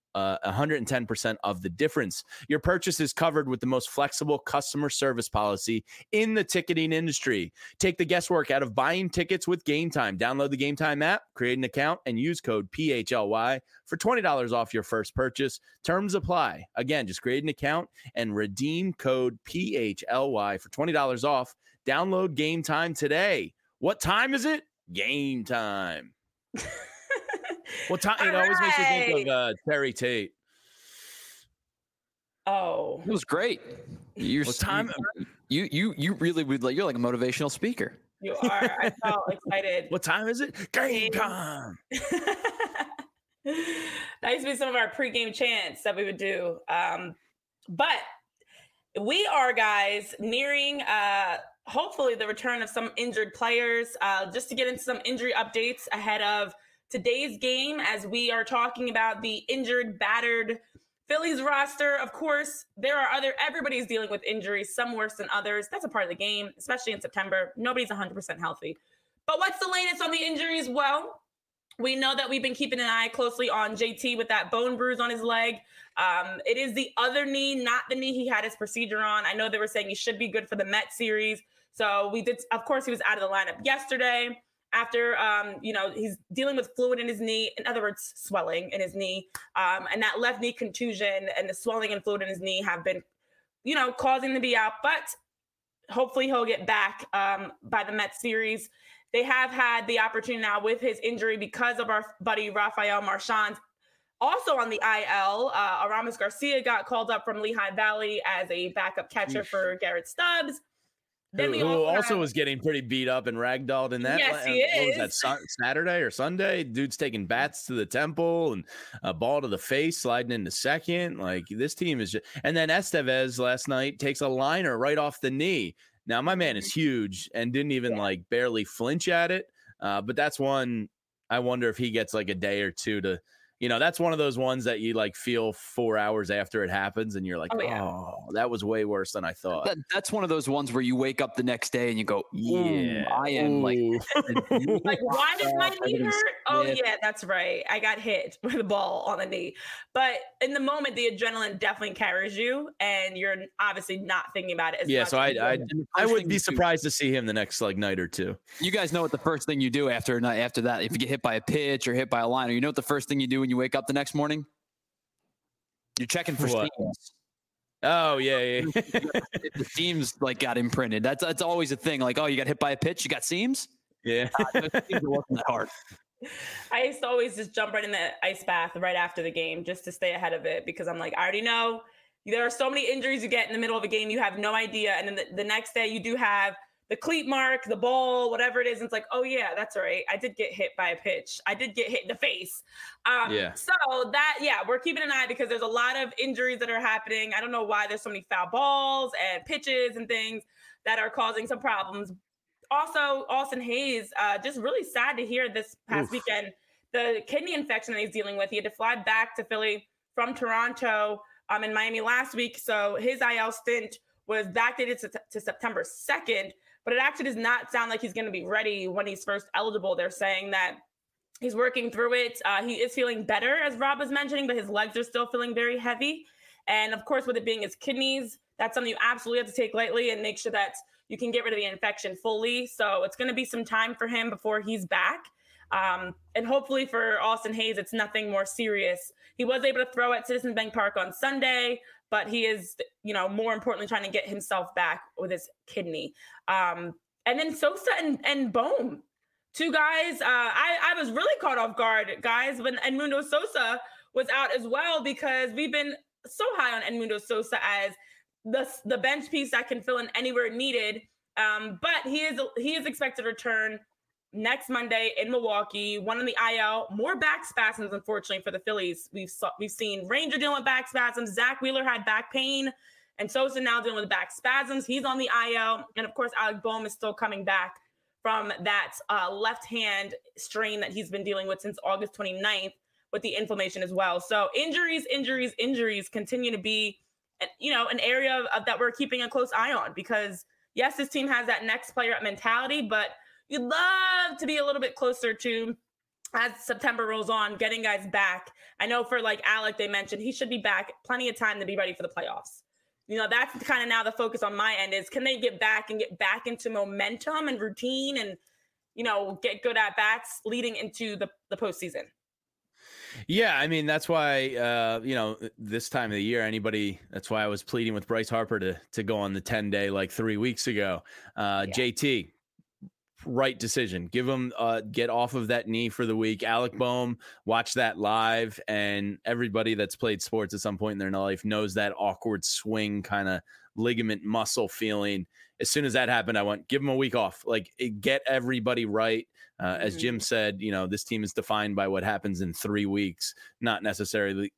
of the difference. Your purchase is covered with the most flexible customer service policy in the ticketing industry. Take the guesswork out of buying tickets with Game Time. Download the Game Time app, create an account, and use code PHLY for $20 off your first purchase. Terms apply. Again, just create an account and redeem code PHLY for $20 off. Download Game Time today. What time is it? Game time. What time? It always makes me think of Terry Tate. Oh, it was great. What time? You really would like. You're like a motivational speaker. You are. I felt excited. What time is it? Game time. That used to be some of our pregame chants that we would do. But we are, guys, nearing hopefully the return of some injured players. Just to get into some injury updates ahead of today's game, as we are talking about the injured, battered Phillies roster. Of course, everybody's dealing with injuries, some worse than others. That's a part of the game, especially in September. Nobody's 100% healthy. But what's the latest on the injuries? Well, we know that we've been keeping an eye closely on JT with that bone bruise on his leg. It is the other knee, not the knee he had his procedure on. I know they were saying he should be good for the Mets series. So of course, he was out of the lineup yesterday. After, he's dealing with fluid in his knee, in other words, swelling in his knee. And that left knee contusion and the swelling and fluid in his knee have been, causing him to be out. But hopefully he'll get back by the Mets series. they have had the opportunity now with his injury because of our buddy Rafael Marchand. Also on the IL, Aramis Garcia got called up from Lehigh Valley as a backup catcher for Garrett Stubbs. Then who also was getting pretty beat up and ragdolled in that. Yes, he is. What was that, Saturday or Sunday? Dude's taking bats to the temple and a ball to the face, sliding into second. Like, this team is just. And then Estevez last night takes a liner right off the knee. Now, my man is huge and didn't even like barely flinch at it. But that's one. I wonder if he gets like a day or two to. That's one of those ones that you like feel 4 hours after it happens and you're like, oh, that was way worse than I thought. That's one of those ones where you wake up the next day and you go, yeah, I am like why does my knee hurt? Oh, yeah, that's right. I got hit with a ball on the knee. But in the moment, the adrenaline definitely carries you and you're obviously not thinking about it as much. So I would be surprised to see him the next night or two. You guys know what the first thing you do after that, if you get hit by a pitch or hit by a liner, you know what the first thing you do when you wake up the next morning? You're checking for seams. Oh, yeah. The seams got imprinted. That's always a thing. Like, oh, you got hit by a pitch, you got seams? Yeah. Those seams are working that hard. I used to always just jump right in the ice bath right after the game just to stay ahead of it because I'm like, I already know there are so many injuries you get in the middle of a game. You have no idea. And then the next day you do have the cleat mark, the ball, whatever it is. And it's like, oh yeah, that's right. I did get hit by a pitch. I did get hit in the face. So we're keeping an eye because there's a lot of injuries that are happening. I don't know why there's so many foul balls and pitches and things that are causing some problems. Also, Austin Hayes, just really sad to hear this past weekend, the kidney infection that he's dealing with. He had to fly back to Philly from Toronto in Miami last week. So his IL stint was backdated to September 2nd. But it actually does not sound like he's going to be ready when he's first eligible. They're saying that he's working through it. He is feeling better, as Rob was mentioning, but his legs are still feeling very heavy. And of course, with it being his kidneys, that's something you absolutely have to take lightly and make sure that you can get rid of the infection fully. So it's going to be some time for him before he's back. And hopefully for Austin Hayes, it's nothing more serious. He was able to throw at Citizens Bank Park on Sunday, but he is, more importantly, trying to get himself back with his kidney. And then Sosa and Bohm, two guys. I was really caught off guard, guys, when Edmundo Sosa was out as well, because we've been so high on Edmundo Sosa as the bench piece that can fill in anywhere needed. But he is expected to return next Monday in Milwaukee. One in the IL, more back spasms, unfortunately, for the Phillies. We've seen Ranger dealing with back spasms. Zach Wheeler had back pain, and Sosa now dealing with back spasms. He's on the IL, and of course, Alec Bohm is still coming back from that left hand strain that he's been dealing with since August 29th with the inflammation as well. So injuries continue to be, an area that we're keeping a close eye on, because yes, this team has that next player up mentality, but you'd love to be a little bit closer to, as September rolls on, getting guys back. I know for Alec, they mentioned he should be back plenty of time to be ready for the playoffs. That's kind of now the focus on my end is, can they get back into momentum and routine and, get good at bats leading into the postseason. Yeah, I mean, that's why, this time of the year, that's why I was pleading with Bryce Harper to go on the 10-day 3 weeks ago. JT, right decision. Give him get off of that knee for the week. Alec Bohm, watch that live, and everybody that's played sports at some point in their life knows that awkward swing kind of ligament muscle feeling. As soon as that happened, I went, give him a week off. Get everybody right. As Jim said, this team is defined by what happens in 3 weeks, not necessarily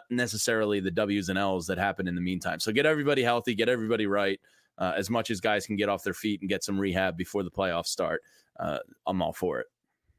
the W's and L's that happen in the meantime. So get everybody healthy, get everybody right. As much as guys can get off their feet and get some rehab before the playoffs start, I'm all for it.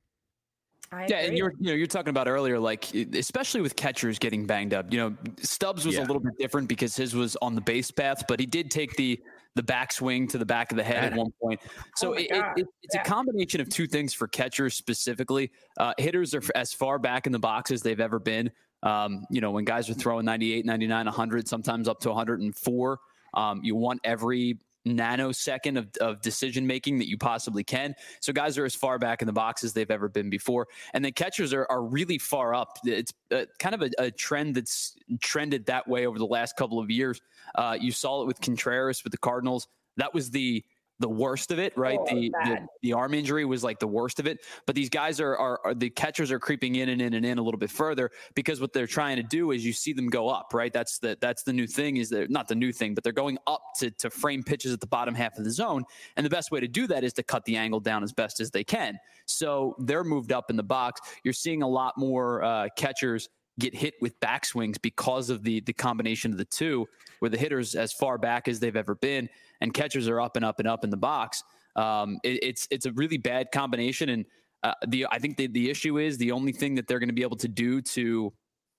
And you're talking about earlier, especially with catchers getting banged up. Stubbs was a little bit different because his was on the base path, but he did take the backswing to the back of the head at one point. So it's a combination of two things for catchers specifically. Hitters are as far back in the box as they've ever been. When guys are throwing 98, 99, 100, sometimes up to 104. You want every nanosecond of decision making that you possibly can. So guys are as far back in the box as they've ever been before. And then catchers are really far up. It's kind of a trend that's trended that way over the last couple of years. You saw it with Contreras with the Cardinals. That was the the worst of it, right? The arm injury was like the worst of it. But these guys are the catchers are creeping in a little bit further, because what they're trying to do is you see them go up, right? That's the new thing, is they're not the new thing, but they're going up to frame pitches at the bottom half of the zone. And the best way to do that is to cut the angle down as best as they can. So they're moved up in the box. You're seeing a lot more catchers get hit with backswings because of the combination of the two, where the hitter's as far back as they've ever been and catchers are up and up and up in the box. It's a really bad combination. And I think the issue is the only thing that they're going to be able to do to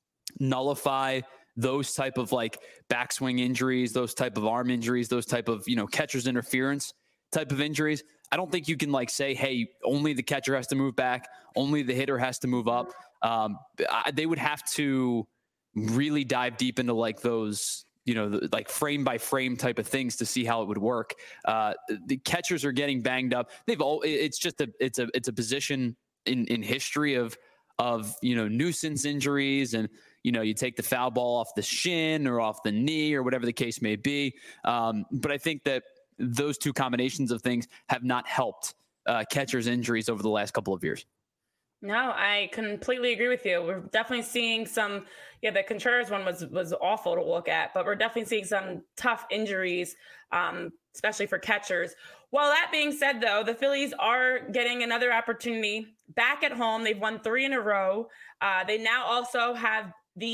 nullify those type of like backswing injuries, those type of arm injuries, those type of, catcher's interference type of injuries. I don't think you can like say, hey, only the catcher has to move back, only the hitter has to move up. They would have to really dive deep into like those, like frame by frame type of things to see how it would work. The catchers are getting banged up. It's a position in history of nuisance injuries, and you take the foul ball off the shin or off the knee or whatever the case may be. But I think that those two combinations of things have not helped catchers' injuries over the last couple of years. No, I completely agree with you. We're definitely seeing some, the Contreras one was awful to look at, but we're definitely seeing some tough injuries, especially for catchers. Well, that being said, though, the Phillies are getting another opportunity back at home. They've won 3 in a row. They now also have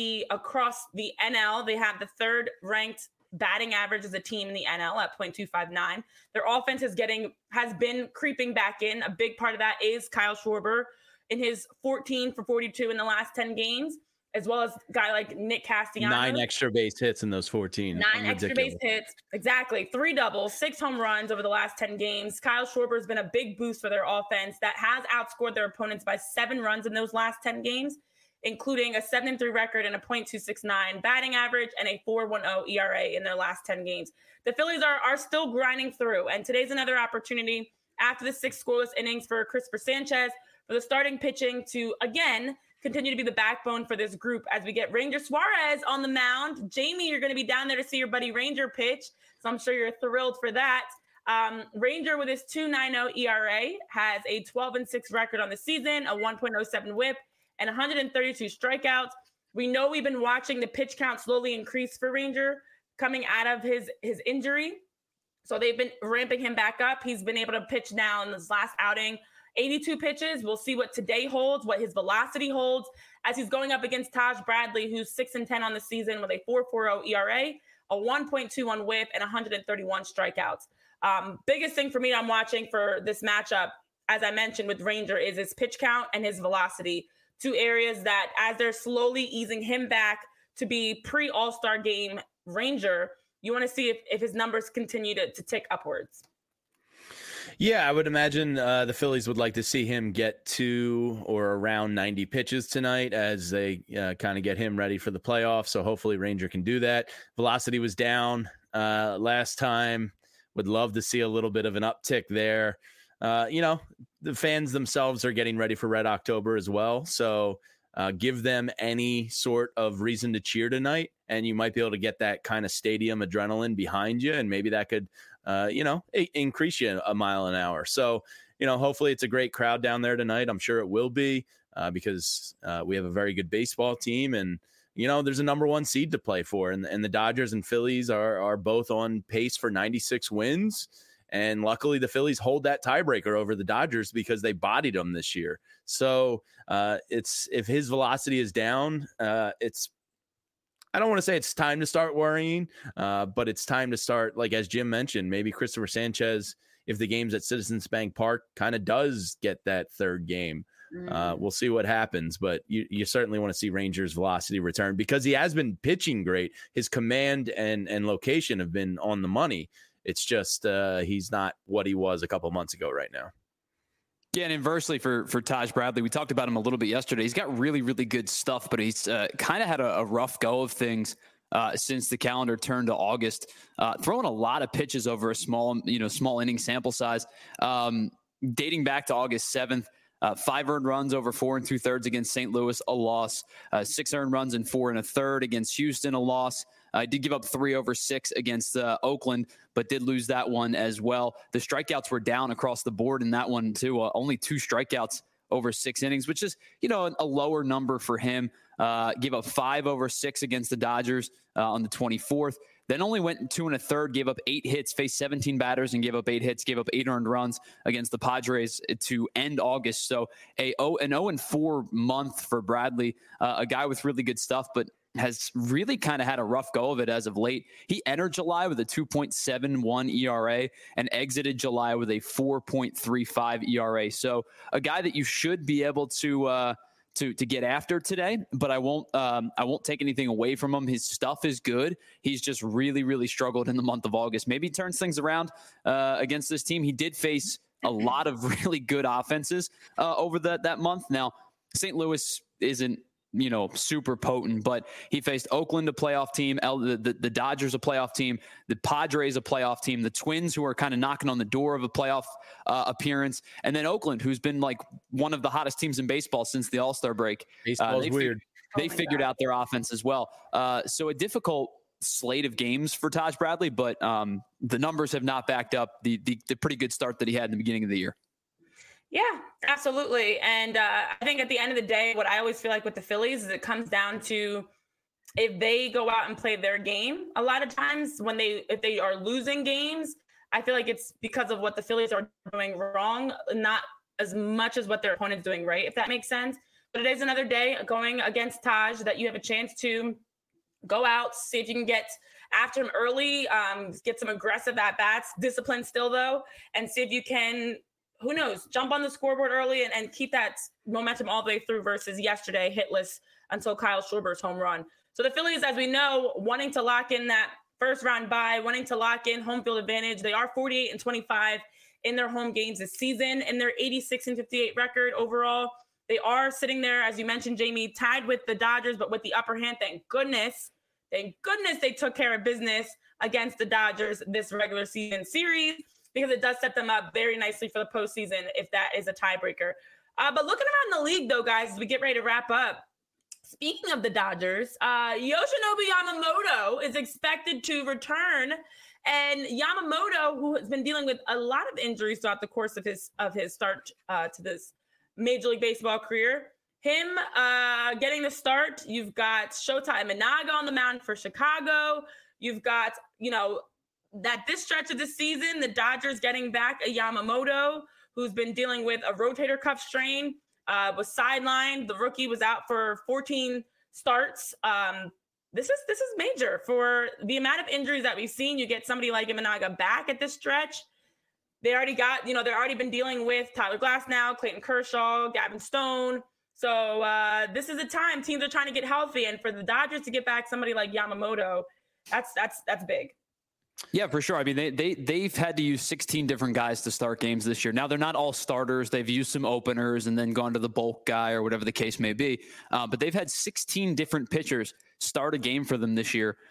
across the NL, they have the 3rd ranked batting average as a team in the NL at .259. Their offense has been creeping back in. A big part of that is Kyle Schwarber in his 14 for 42 in the last 10 games, as well as a guy like Nick Castellanos. 9 extra base hits in those 14. 9 extra base hits. Exactly. 3 doubles, 6 home runs over the last 10 games. Kyle Schwarber has been a big boost for their offense that has outscored their opponents by 7 runs in those last 10 games, including a 7-3 record and a .269 batting average and a 4.10 ERA in their last 10 games. The Phillies are still grinding through, and today's another opportunity after the 6 scoreless innings for Cristopher Sanchez for the starting pitching to, again, continue to be the backbone for this group as we get Ranger Suarez on the mound. Jamie, you're going to be down there to see your buddy Ranger pitch, so I'm sure you're thrilled for that. Ranger, with his 2.90 ERA, has a 12-6 record on the season, a 1.07 whip, and 132 strikeouts. We know we've been watching the pitch count slowly increase for Ranger coming out of his injury. So they've been ramping him back up. He's been able to pitch now in this last outing 82 pitches. We'll see what today holds, what his velocity holds, as he's going up against Taj Bradley, who's 6-10 on the season with a 4.40 ERA, a 1.21 whip, and 131 strikeouts. Biggest thing for me I'm watching for this matchup, as I mentioned with Ranger, is his pitch count and his velocity. 2 areas that, as they're slowly easing him back to be pre-All-Star game Ranger, you want to see if his numbers continue to tick upwards. Yeah, I would imagine the Phillies would like to see him get to or around 90 pitches tonight as they kind of get him ready for the playoffs. So hopefully Ranger can do that. Velocity was down last time. Would love to see a little bit of an uptick there. The fans themselves are getting ready for Red October as well. So give them any sort of reason to cheer tonight, and you might be able to get that kind of stadium adrenaline behind you, and maybe that could increase you a mile an hour. So, hopefully it's a great crowd down there tonight. I'm sure it will be because we have a very good baseball team, and, there's a number 1 seed to play for. And the Dodgers and Phillies are both on pace for 96 wins. And luckily the Phillies hold that tiebreaker over the Dodgers because they bodied them this year. So if his velocity is down, I don't want to say it's time to start worrying, but it's time to start, like as Jim mentioned, maybe Cristopher Sanchez, if the game's at Citizens Bank Park, kind of does get that 3rd game. We'll see what happens, but you certainly want to see Rangers' velocity return because he has been pitching great. His command and location have been on the money. It's just he's not what he was a couple months ago right now. Yeah, and inversely for Taj Bradley, we talked about him a little bit yesterday. He's got really, really good stuff, but he's kind of had a rough go of things since the calendar turned to August, throwing a lot of pitches over a small inning sample size. Dating back to August 7th, 5 earned runs over 4 2/3 against St. Louis, a loss. 6 earned runs and 4 1/3 against Houston, a loss. Did give up 3 over 6 against Oakland, but did lose that one as well. The strikeouts were down across the board in that one too. Only 2 strikeouts over 6 innings, which is, a lower number for him. Gave up 5 over 6 against the Dodgers on the 24th. Then only went 2 1/3, gave up 8 hits, faced 17 batters and gave up 8 hits, gave up 8 earned runs against the Padres to end August. So an 0-4 month for Bradley, a guy with really good stuff, but has really kind of had a rough go of it as of late. He entered July with a 2.71 ERA and exited July with a 4.35 ERA. So a guy that you should be able to get after today, but I won't take anything away from him. His stuff is good. He's just really, really struggled in the month of August. Maybe he turns things around against this team. He did face a lot of really good offenses over that month. Now, St. Louis isn't, super potent, but he faced Oakland, a playoff team, the Dodgers, a playoff team, the Padres, a playoff team, the Twins, who are kind of knocking on the door of a playoff appearance, and then Oakland, who's been like one of the hottest teams in baseball since the All-Star break. Baseball's weird. They figured out their offense as well. So a difficult slate of games for Taj Bradley, but the numbers have not backed up the pretty good start that he had in the beginning of the year. Yeah, absolutely. And I think at the end of the day, what I always feel like with the Phillies is it comes down to if they go out and play their game. A lot of times if they are losing games, I feel like it's because of what the Phillies are doing wrong, not as much as what their opponent's doing right, if that makes sense. But it is another day going against Taj that you have a chance to go out, see if you can get after him early, get some aggressive at-bats, discipline still though, and see if you can – who knows, jump on the scoreboard early and keep that momentum all the way through versus yesterday hitless until Kyle Schwarber's home run. So the Phillies, as we know, wanting to lock in that first round bye, wanting to lock in home field advantage. They are 48-25 in their home games this season and their 86-58 record overall. They are sitting there, as you mentioned, Jamie, tied with the Dodgers, but with the upper hand. Thank goodness they took care of business against the Dodgers this regular season series, because it does set them up very nicely for the postseason if that is a tiebreaker. But looking around the league, though, guys, as we get ready to wrap up, speaking of the Dodgers, Yoshinobu Yamamoto is expected to return. And Yamamoto, who has been dealing with a lot of injuries throughout the course of his start to this Major League Baseball career, him getting the start, you've got Shota Imanaga on the mound for Chicago. You've got, that this stretch of the season, the Dodgers getting back a Yamamoto who's been dealing with a rotator cuff strain, was sidelined. The rookie was out for 14 starts. This is major for the amount of injuries that we've seen. You get somebody like Imanaga back at this stretch. They already got, they've already been dealing with Tyler Glasnow, Clayton Kershaw, Gavin Stone. So this is a time teams are trying to get healthy, and for the Dodgers to get back somebody like Yamamoto, that's big. Yeah, for sure. I mean, they've had to use 16 different guys to start games this year. Now, they're not all starters. They've used some openers and then gone to the bulk guy or whatever the case may be. But they've had 16 different pitchers start a game for them this year.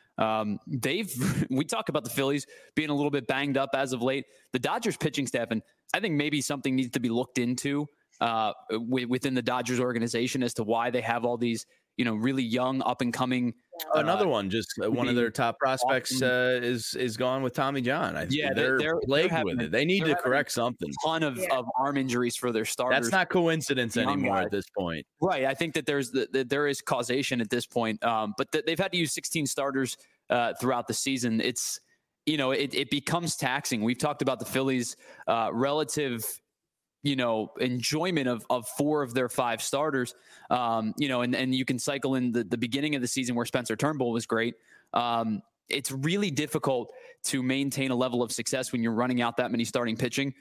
We talk about the Phillies being a little bit banged up as of late. The Dodgers pitching staff, and I think maybe something needs to be looked into within the Dodgers organization as to why they have all these, really young, up and coming. Another one, just one of their top prospects is gone with Tommy John. They're plagued with it. They need to correct something. A ton of arm injuries for their starters. That's not coincidence anymore at this point. Right. I think that there is causation at this point. But they've had to use 16 starters throughout the season. It's, it becomes taxing. We've talked about the Phillies' relative enjoyment of 4 of their 5 starters, and you can cycle in the beginning of the season where Spencer Turnbull was great. It's really difficult to maintain a level of success when you're running out that many starting pitchers.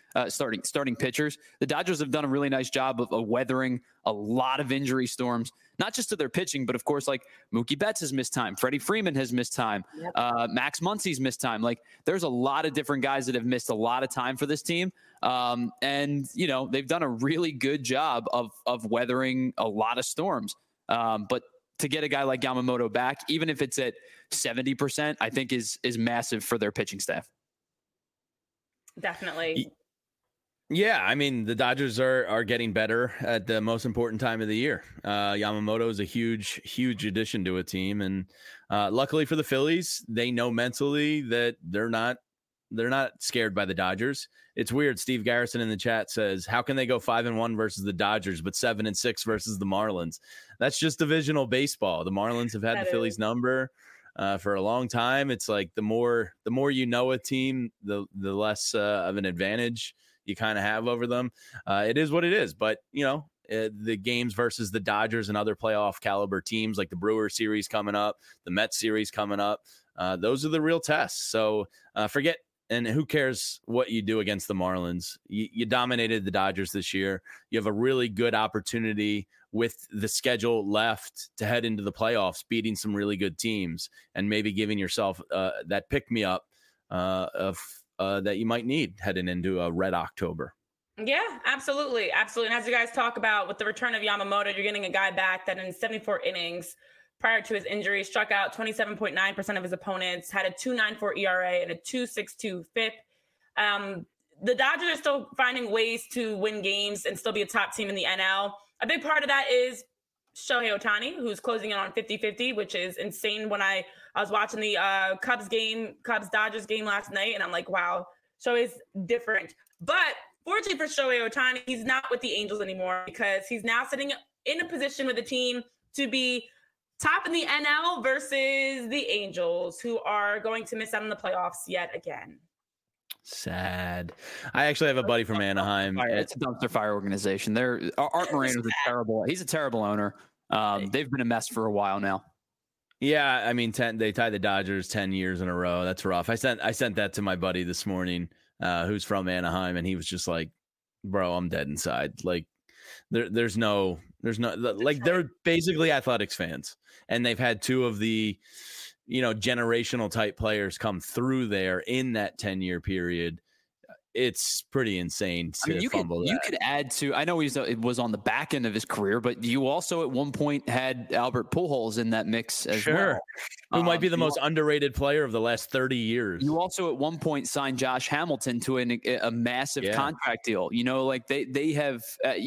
The Dodgers have done a really nice job of weathering a lot of injury storms, not just to their pitching, but of course, like Mookie Betts has missed time. Freddie Freeman has missed time. Yep. Max Muncy's missed time. Like, there's a lot of different guys that have missed a lot of time for this team. And they've done a really good job of weathering a lot of storms. But to get a guy like Yamamoto back, even if it's at 70%, I think is massive for their pitching staff. Definitely. Yeah, I mean, the Dodgers are getting better at the most important time of the year. Yamamoto is a huge addition to a team, and luckily for the Phillies, they know mentally that they're not scared by the Dodgers. It's weird. Steve Garrison in the chat says, "How can they go 5-1 versus the Dodgers, but 7-6 versus the Marlins?" That's just divisional baseball. The Marlins have had the Phillies number for a long time. It's like the more you know a team, the less of an advantage you kind of have over them. It is what it is. But, the games versus the Dodgers and other playoff caliber teams like the Brewer series coming up, the Mets series coming up, those are the real tests. So forget, and who cares what you do against the Marlins? You dominated the Dodgers this year. You have a really good opportunity with the schedule left to head into the playoffs, beating some really good teams and maybe giving yourself that pick-me-up that you might need heading into a red October. Yeah, absolutely. Absolutely. And as you guys talk about with the return of Yamamoto, you're getting a guy back that in 74 innings prior to his injury struck out 27.9% of his opponents, had a 2.94 ERA and a 2.62 FIP. The Dodgers are still finding ways to win games and still be a top team in the NL. A big part of that is Shohei Ohtani, who's closing in on 50-50, which is insane. When I was watching the Cubs-Dodgers game last night, and I'm like, wow, Shohei's different. But fortunately for Shohei Ohtani, he's not with the Angels anymore because he's now sitting in a position with the team to be top in the NL versus the Angels, who are going to miss out on the playoffs yet again. Sad. I actually have a buddy from Anaheim. It's a dumpster fire organization. Art Moreno's he's a terrible owner. They've been a mess for a while now. Yeah, I mean, they tied the Dodgers 10 years in a row. That's rough. I sent that to my buddy this morning, who's from Anaheim, and he was just like, "Bro, I'm dead inside." Like, there's no, like, they're basically athletics fans, and they've had two of the, generational type players come through there in that 10-year period. It's pretty insane to fumble that. You could add to, I know it was on the back end of his career, but you also at one point had Albert Pujols in that mix as well. Who might be the most underrated player of the last 30 years. You also at one point signed Josh Hamilton to a massive contract deal. Like they have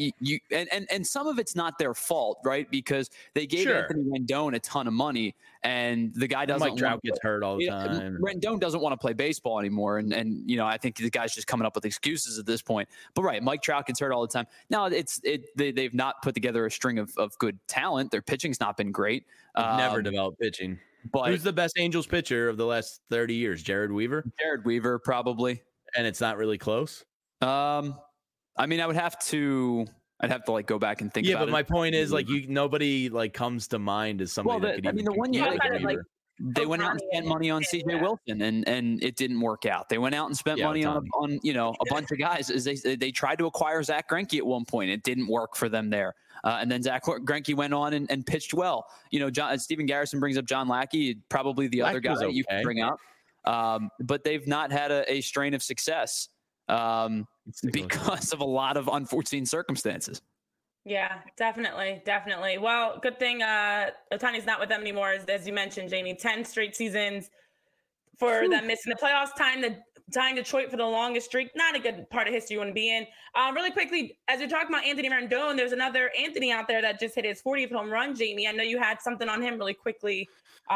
and some of it's not their fault, right? Because they gave Anthony Rendon a ton of money, and the guy doesn't. Mike Trout gets hurt all the time. Rendon doesn't want to play baseball anymore, and I think the guy's just coming up with excuses at this point. But Mike Trout gets hurt all the time. Now they've not put together a string of good talent. Their pitching's not been great. Never developed pitching. But who's the best Angels pitcher of the last 30 years? Jared Weaver? Jared Weaver, probably. And it's not really close? I mean, I'd have to like go back and think about it. Yeah, but my point is, like, nobody like comes to mind as somebody that could even. The one year they went out and spent money on CJ Wilson, and it didn't work out. They went out and spent money on a bunch of guys. As they tried to acquire Zach Greinke at one point, it didn't work for them there. And then Zach Greinke went on and pitched well. Stephen Garrison brings up John Lackey, probably the other guy that you can bring up. But they've not had a strain of success because of a lot of unforeseen circumstances. Yeah, definitely. Well, good thing Ohtani's not with them anymore, as you mentioned, Jamie. 10 straight seasons for them missing the playoffs. Tying Detroit for the longest streak. Not a good part of history you want to be in. Really quickly, as you're talking about Anthony Rendon, there's another Anthony out there that just hit his 40th home run, Jamie. I know you had something on him really quickly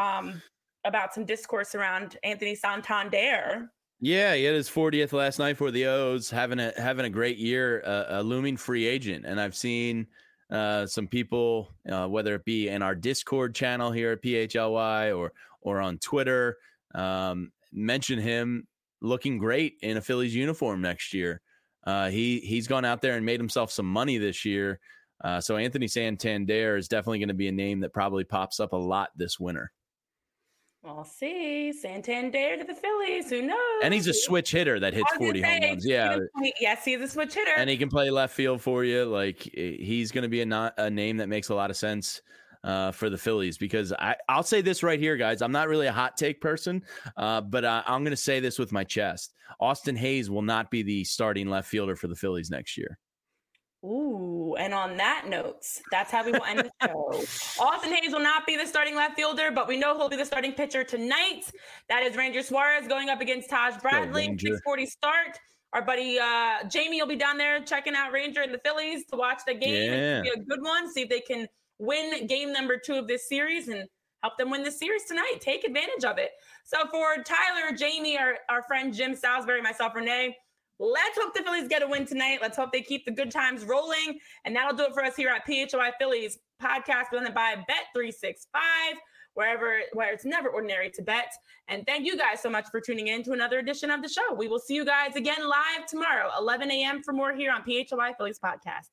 about some discourse around Anthony Santander. Yeah, he had his 40th last night for the O's, having a great year, a looming free agent. And I've seen some people, whether it be in our Discord channel here at PHLY or on Twitter, mention him looking great in a Phillies uniform next year. He's gone out there and made himself some money this year. So Anthony Santander is definitely going to be a name that probably pops up a lot this winter. We'll see. Santander to the Phillies. Who knows? And he's a switch hitter that hits 40 home runs. Yeah. Yes, he's a switch hitter. And he can play left field for you. Like, he's going to be a name that makes a lot of sense for the Phillies, because I'll say this right here, guys. I'm not really a hot take person, but I'm going to say this with my chest. Austin Hayes will not be the starting left fielder for the Phillies next year. Ooh, and on that note, that's how we will end the show. Austin Hayes will not be the starting left fielder, but we know he'll be the starting pitcher tonight. That is Ranger Suarez going up against Taj Bradley. 6:40 start. Our buddy Jamie will be down there checking out Ranger and the Phillies to watch the game. Yeah. It's going to be a good one. See if they can win game number 2 of this series and help them win this series tonight. Take advantage of it. So for Tyler, Jamie, our friend Jim Salisbury, myself, Renee, let's hope the Phillies get a win tonight. Let's hope they keep the good times rolling. And that'll do it for us here at PHLY Phillies podcast presented by Bet365, where it's never ordinary to bet. And thank you guys so much for tuning in to another edition of the show. We will see you guys again live tomorrow, 11 a.m. for more here on PHLY Phillies podcast.